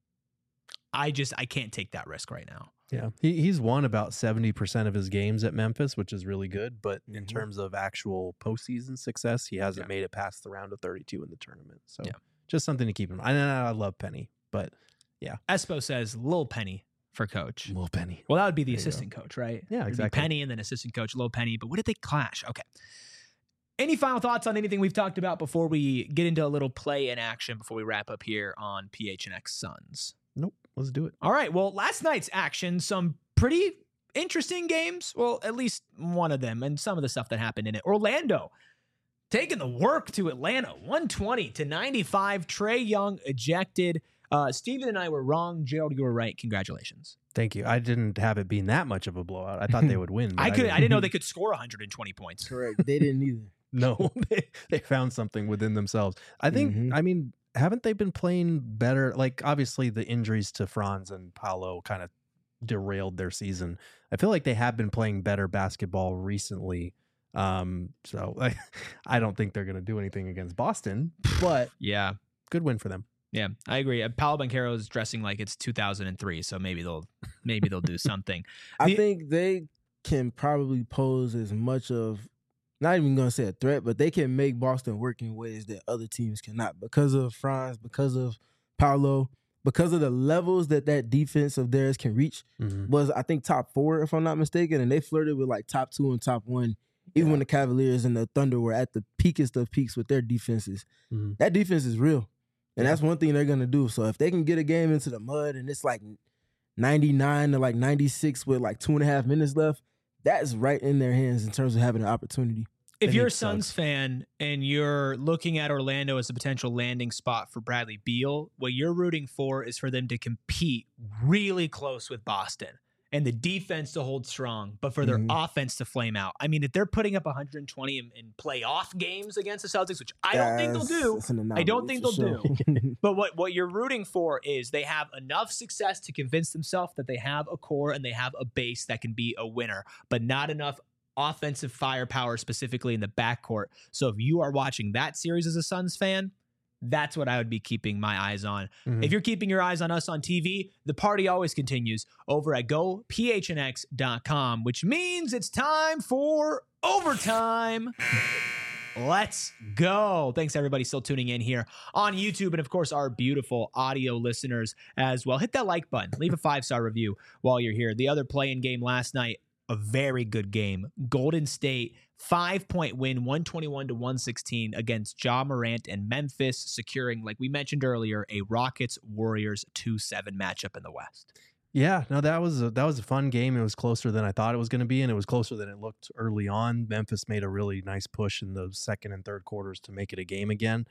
I can't take that risk right now. Yeah, he's won about 70% of his games at Memphis, which is really good. But in terms of actual postseason success, he hasn't made it past the round of 32 in the tournament. So just something to keep in mind. I love Penny, but yeah. Espo says Lil Penny for coach. Lil Penny. Well, that would be the assistant coach, right? Yeah, It'd be exactly. Penny and then assistant coach Lil Penny. But what did they clash? Okay. Any final thoughts on anything we've talked about before we get into a little play in action before we wrap up here on PHNX Suns? Nope. Let's do it. All right. Well, last night's action, some pretty interesting games. Well, at least one of them, and some of the stuff that happened in it. Orlando taking the work to Atlanta, 120-95. Trae Young ejected. Steven and I were wrong. Gerald, you were right. Congratulations. Thank you. I didn't have it being that much of a blowout. I thought they would win. but I didn't know they could score 120 points. Correct. They didn't either. No, they found something within themselves. I think, I mean, haven't they been playing better? Like, obviously, the injuries to Franz and Paolo kind of derailed their season. I feel like they have been playing better basketball recently. So I don't think they're going to do anything against Boston, but Yeah. good win for them. Yeah, I agree. Paolo Banchero is dressing like it's 2003, so maybe they'll do something. I think they can probably pose as much of, not even going to say a threat, but they can make Boston work in ways that other teams cannot because of Franz, because of Paolo, because of the levels that defense of theirs can reach. Was, I think, top 4, if I'm not mistaken, and they flirted with like top 2 and top 1, even when the Cavaliers and the Thunder were at the peakest of peaks with their defenses. That defense is real. And that's one thing they're going to do. So if they can get a game into the mud and it's like 99 to like 96 with like 2.5 minutes left, that's right in their hands in terms of having an opportunity. If you're a Suns fan and you're looking at Orlando as a potential landing spot for Bradley Beal, what you're rooting for is for them to compete really close with Boston and the defense to hold strong, but for their offense to flame out. I mean, if they're putting up 120 in playoff games against the Celtics, which I don't think they'll do. I don't think they'll do. But what you're rooting for is they have enough success to convince themselves that they have a core and they have a base that can be a winner, but not enough offensive firepower specifically in the backcourt. So if you are watching that series as a Suns fan, that's what I would be keeping my eyes on. If you're keeping your eyes on us on TV, the party always continues over at gophnx.com, which means it's time for overtime. Let's go. Thanks, everybody, still tuning in here on YouTube. And, of course, our beautiful audio listeners as well. Hit that like button. Leave a 5-star review while you're here. The other play-in game last night, a very good game. Golden State, 5-point win, 121-116 against Ja Morant and Memphis, securing, like we mentioned earlier, a Rockets-Warriors 2-7 matchup in the West. Yeah, no, that was a fun game. It was closer than I thought it was going to be, and it was closer than it looked early on. Memphis made a really nice push in the second and third quarters to make it a game again.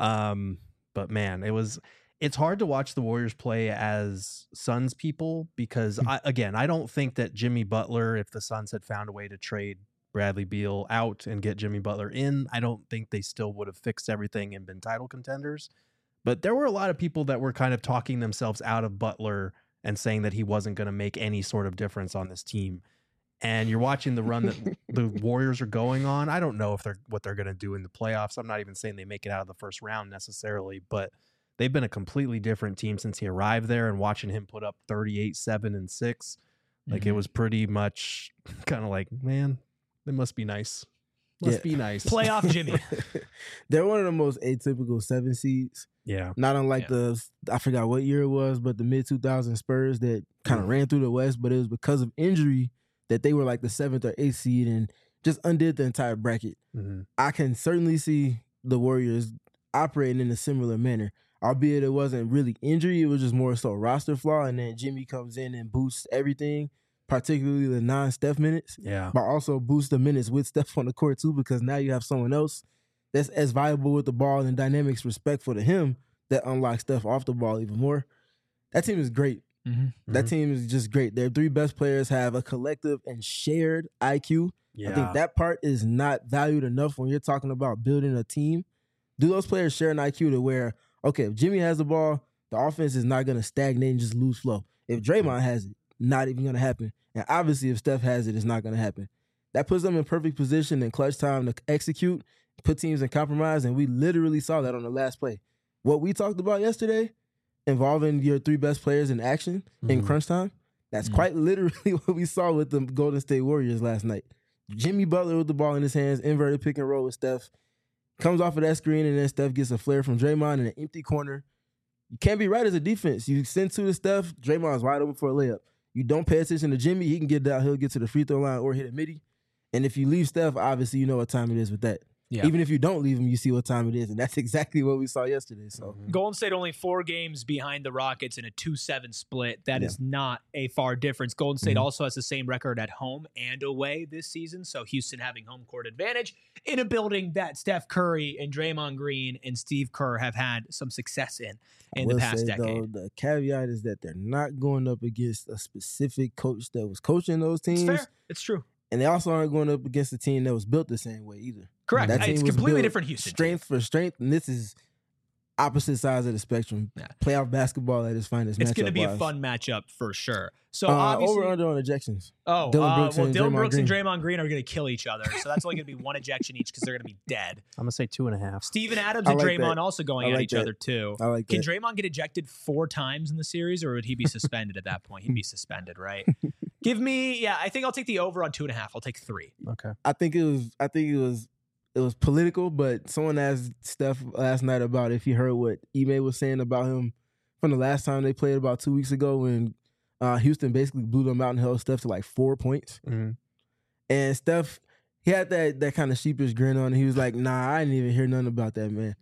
But man, it's hard to watch the Warriors play as Suns people because I don't think that Jimmy Butler, if the Suns had found a way to trade Bradley Beal out and get Jimmy Butler in, I don't think they still would have fixed everything and been title contenders. But there were a lot of people that were kind of talking themselves out of Butler and saying that he wasn't going to make any sort of difference on this team. And you're watching the run that the Warriors are going on. I don't know what they're going to do in the playoffs. I'm not even saying they make it out of the first round necessarily, but they've been a completely different team since he arrived there, and watching him put up 38, 7, and 6, like it was pretty much kind of like, man, they must be nice. Must be nice. Playoff Jimmy. They're one of the most atypical 7 seeds. Yeah. Not unlike I forgot what year it was, but the mid-2000 Spurs that kind of ran through the West, but it was because of injury that they were like the 7th or 8th seed and just undid the entire bracket. Mm-hmm. I can certainly see the Warriors operating in a similar manner, albeit it wasn't really injury. It was just more so roster flaw, and then Jimmy comes in and boosts everything, particularly the non-Steph minutes, but also boost the minutes with Steph on the court too, because now you have someone else that's as valuable with the ball and dynamics respectful to him that unlocks Steph off the ball even more. That team is great. Mm-hmm. That team is just great. Their 3 best players have a collective and shared IQ. I think that part is not valued enough when you're talking about building a team. Do those players share an IQ to where, okay, if Jimmy has the ball, the offense is not going to stagnate and just lose flow. If Draymond has it, not even going to happen. And obviously, if Steph has it, it's not going to happen. That puts them in perfect position in clutch time to execute, put teams in compromise, and we literally saw that on the last play. What we talked about yesterday, involving your 3 best players in action in crunch time, that's quite literally what we saw with the Golden State Warriors last night. Jimmy Butler with the ball in his hands, inverted pick and roll with Steph, comes off of that screen, and then Steph gets a flare from Draymond in an empty corner. You can't be right as a defense. You send 2 to Steph, Draymond's wide open for a layup. You don't pay attention to Jimmy, he can get down, he'll get to the free throw line or hit a midi. And if you leave Steph, obviously you know what time it is with that. Yeah. Even if you don't leave him, you see what time it is. And that's exactly what we saw yesterday. So Golden State only 4 games behind the Rockets in a 2-7 split. That is not a far difference. Golden State also has the same record at home and away this season. So Houston having home court advantage in a building that Steph Curry and Draymond Green and Steve Kerr have had some success in the past decade. Though, the caveat is that they're not going up against a specific coach that was coaching those teams. It's fair. It's true. And they also aren't going up against a team that was built the same way either. Correct. It's completely different Houston. Strength for strength, and this is opposite sides of the spectrum. Yeah. Playoff basketball at its finest. It's going to be a fun matchup for sure. So obviously, over under on ejections. Dylan Brooks and Draymond Green are going to kill each other. So that's only going to be 1 ejection each because they're going to be dead. I'm going to say 2.5. Steven Adams and Draymond also going at each other too. I like Can Draymond get ejected 4 times in the series, or would he be suspended at that point? He'd be suspended, right? Give me, I think I'll take the over on 2.5. I'll take 3. Okay. I think it was political, but someone asked Steph last night about if he heard what Ime was saying about him from the last time they played about 2 weeks ago when Houston basically blew them out and held Steph to like 4 points. Mm-hmm. And Steph, he had that kind of sheepish grin on, and he was like, "Nah, I didn't even hear nothing about that, man."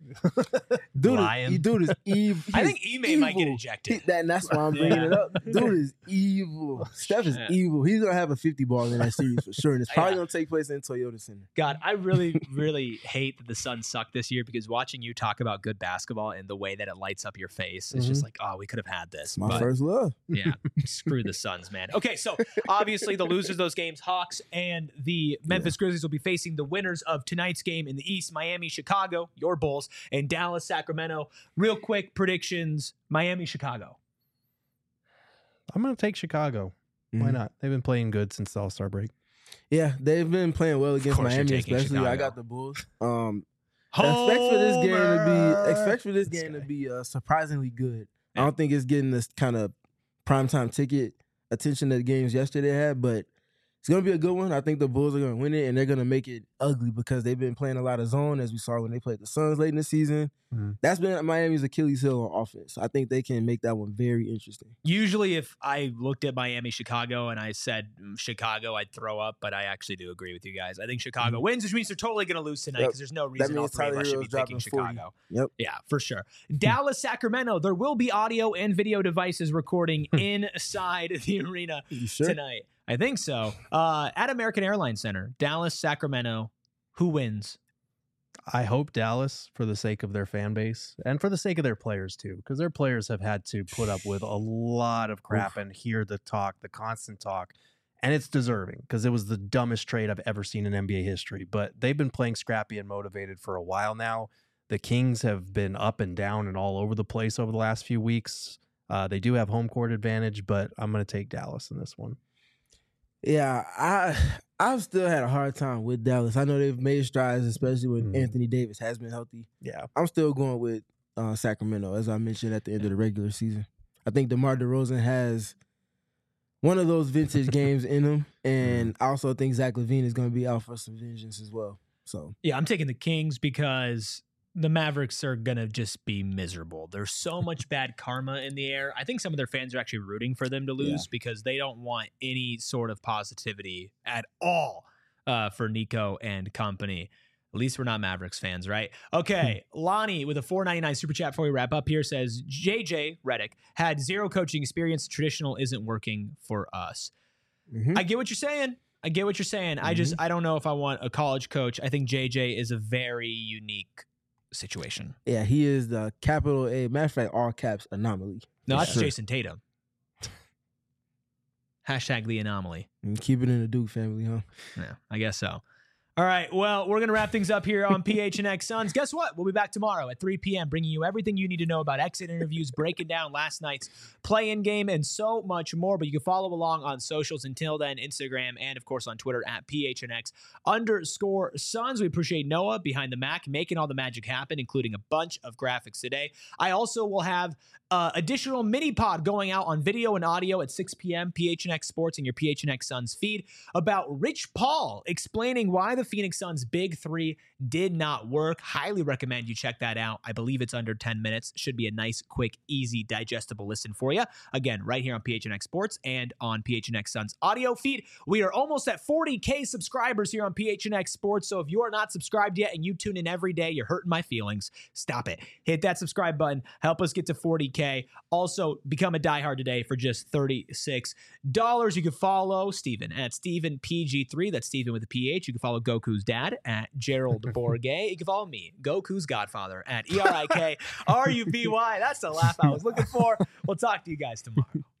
Dude is evil. I think Ime might get ejected. That's why I'm bringing it up. Dude is evil. Steph is evil. He's gonna have a 50 ball in that series for sure, and it's probably gonna take place in Toyota Center. God, I really, really hate that the Suns suck this year because watching you talk about good basketball and the way that it lights up your face, it's just like, oh, we could have had this. My first love. Yeah, screw the Suns, man. Okay, so obviously the losers of those games, Hawks and the Memphis Grizzlies, will be facing the winners of tonight's game in the East, Miami, Chicago, your Bulls, and Dallas, Sacramento. Real quick predictions, Miami, Chicago. I'm going to take Chicago. Why not? They've been playing good since the All-Star break. Yeah, they've been playing well against Miami, especially. Chicago. I got the Bulls. Expect for this game to be surprisingly good. Yeah. I don't think it's getting this kind of primetime ticket attention that the games yesterday had, but It's going to be a good one. I think the Bulls are going to win it, and they're going to make it ugly because they've been playing a lot of zone, as we saw when they played the Suns late in the season. Mm-hmm. That's been Miami's Achilles heel on offense. I think they can make that one very interesting. Usually if I looked at Miami-Chicago and I said Chicago, I'd throw up, but I actually do agree with you guys. I think Chicago wins, which means they're totally going to lose tonight because there's no reason all three of us should be picking Chicago. 40. Yep. Yeah, for sure. Dallas-Sacramento, there will be audio and video devices recording inside the arena tonight. I think so. At American Airlines Center, Dallas-Sacramento, who wins? I hope Dallas, for the sake of their fan base and for the sake of their players too, because their players have had to put up with a lot of crap and hear the talk, the constant talk, and it's deserving because it was the dumbest trade I've ever seen in NBA history. But they've been playing scrappy and motivated for a while now. The Kings have been up and down and all over the place over the last few weeks. They do have home court advantage, but I'm going to take Dallas in this one. Yeah, I've still had a hard time with Dallas. I know they've made strides, especially when Anthony Davis has been healthy. Yeah, I'm still going with Sacramento, as I mentioned at the end of the regular season. I think DeMar DeRozan has one of those vintage games in him, and I also think Zach LaVine is going to be out for some vengeance as well. So yeah, I'm taking the Kings because the Mavericks are going to just be miserable. There's so much bad karma in the air. I think some of their fans are actually rooting for them to lose because they don't want any sort of positivity at all for Nico and company. At least we're not Mavericks fans, right? Okay, Lonnie with a $4.99 super chat before we wrap up here says, JJ Redick had zero coaching experience. Traditional isn't working for us. Mm-hmm. I get what you're saying. Mm-hmm. I don't know if I want a college coach. I think JJ is a very unique situation. Yeah, he is the capital A, matter of fact, all caps anomaly. No, that's Jason Tatum. Hashtag the anomaly. And keep it in the Duke family, huh? Yeah, I guess so. All right, well, we're going to wrap things up here on PHNX Suns. Guess what? We'll be back tomorrow at 3 p.m. bringing you everything you need to know about exit interviews, breaking down last night's play-in game, and so much more. But you can follow along on socials. Until then, Instagram and, of course, on Twitter at PHNX_Suns. We appreciate Noah behind the Mac making all the magic happen, including a bunch of graphics today. I also will have additional mini-pod going out on video and audio at 6 p.m. PHNX Sports and your PHNX Suns feed about Rich Paul explaining why the Phoenix Suns' big three did not work. Highly recommend you check that out. I believe it's under 10 minutes. Should be a nice, quick, easy, digestible listen for you. Again, right here on PHNX Sports and on PHNX Suns audio feed. We are almost at 40K subscribers here on PHNX Sports, so if you are not subscribed yet and you tune in every day, you're hurting my feelings. Stop it. Hit that subscribe button. Help us get to 40K. Also, become a diehard today for just $36. You can follow Steven at StevenPG3. That's Steven with a PH. You can follow Goku's dad at Gerald Bourget. You can follow me, Goku's godfather, at ERIKRUBY. That's the laugh I was looking for. We'll talk to you guys tomorrow.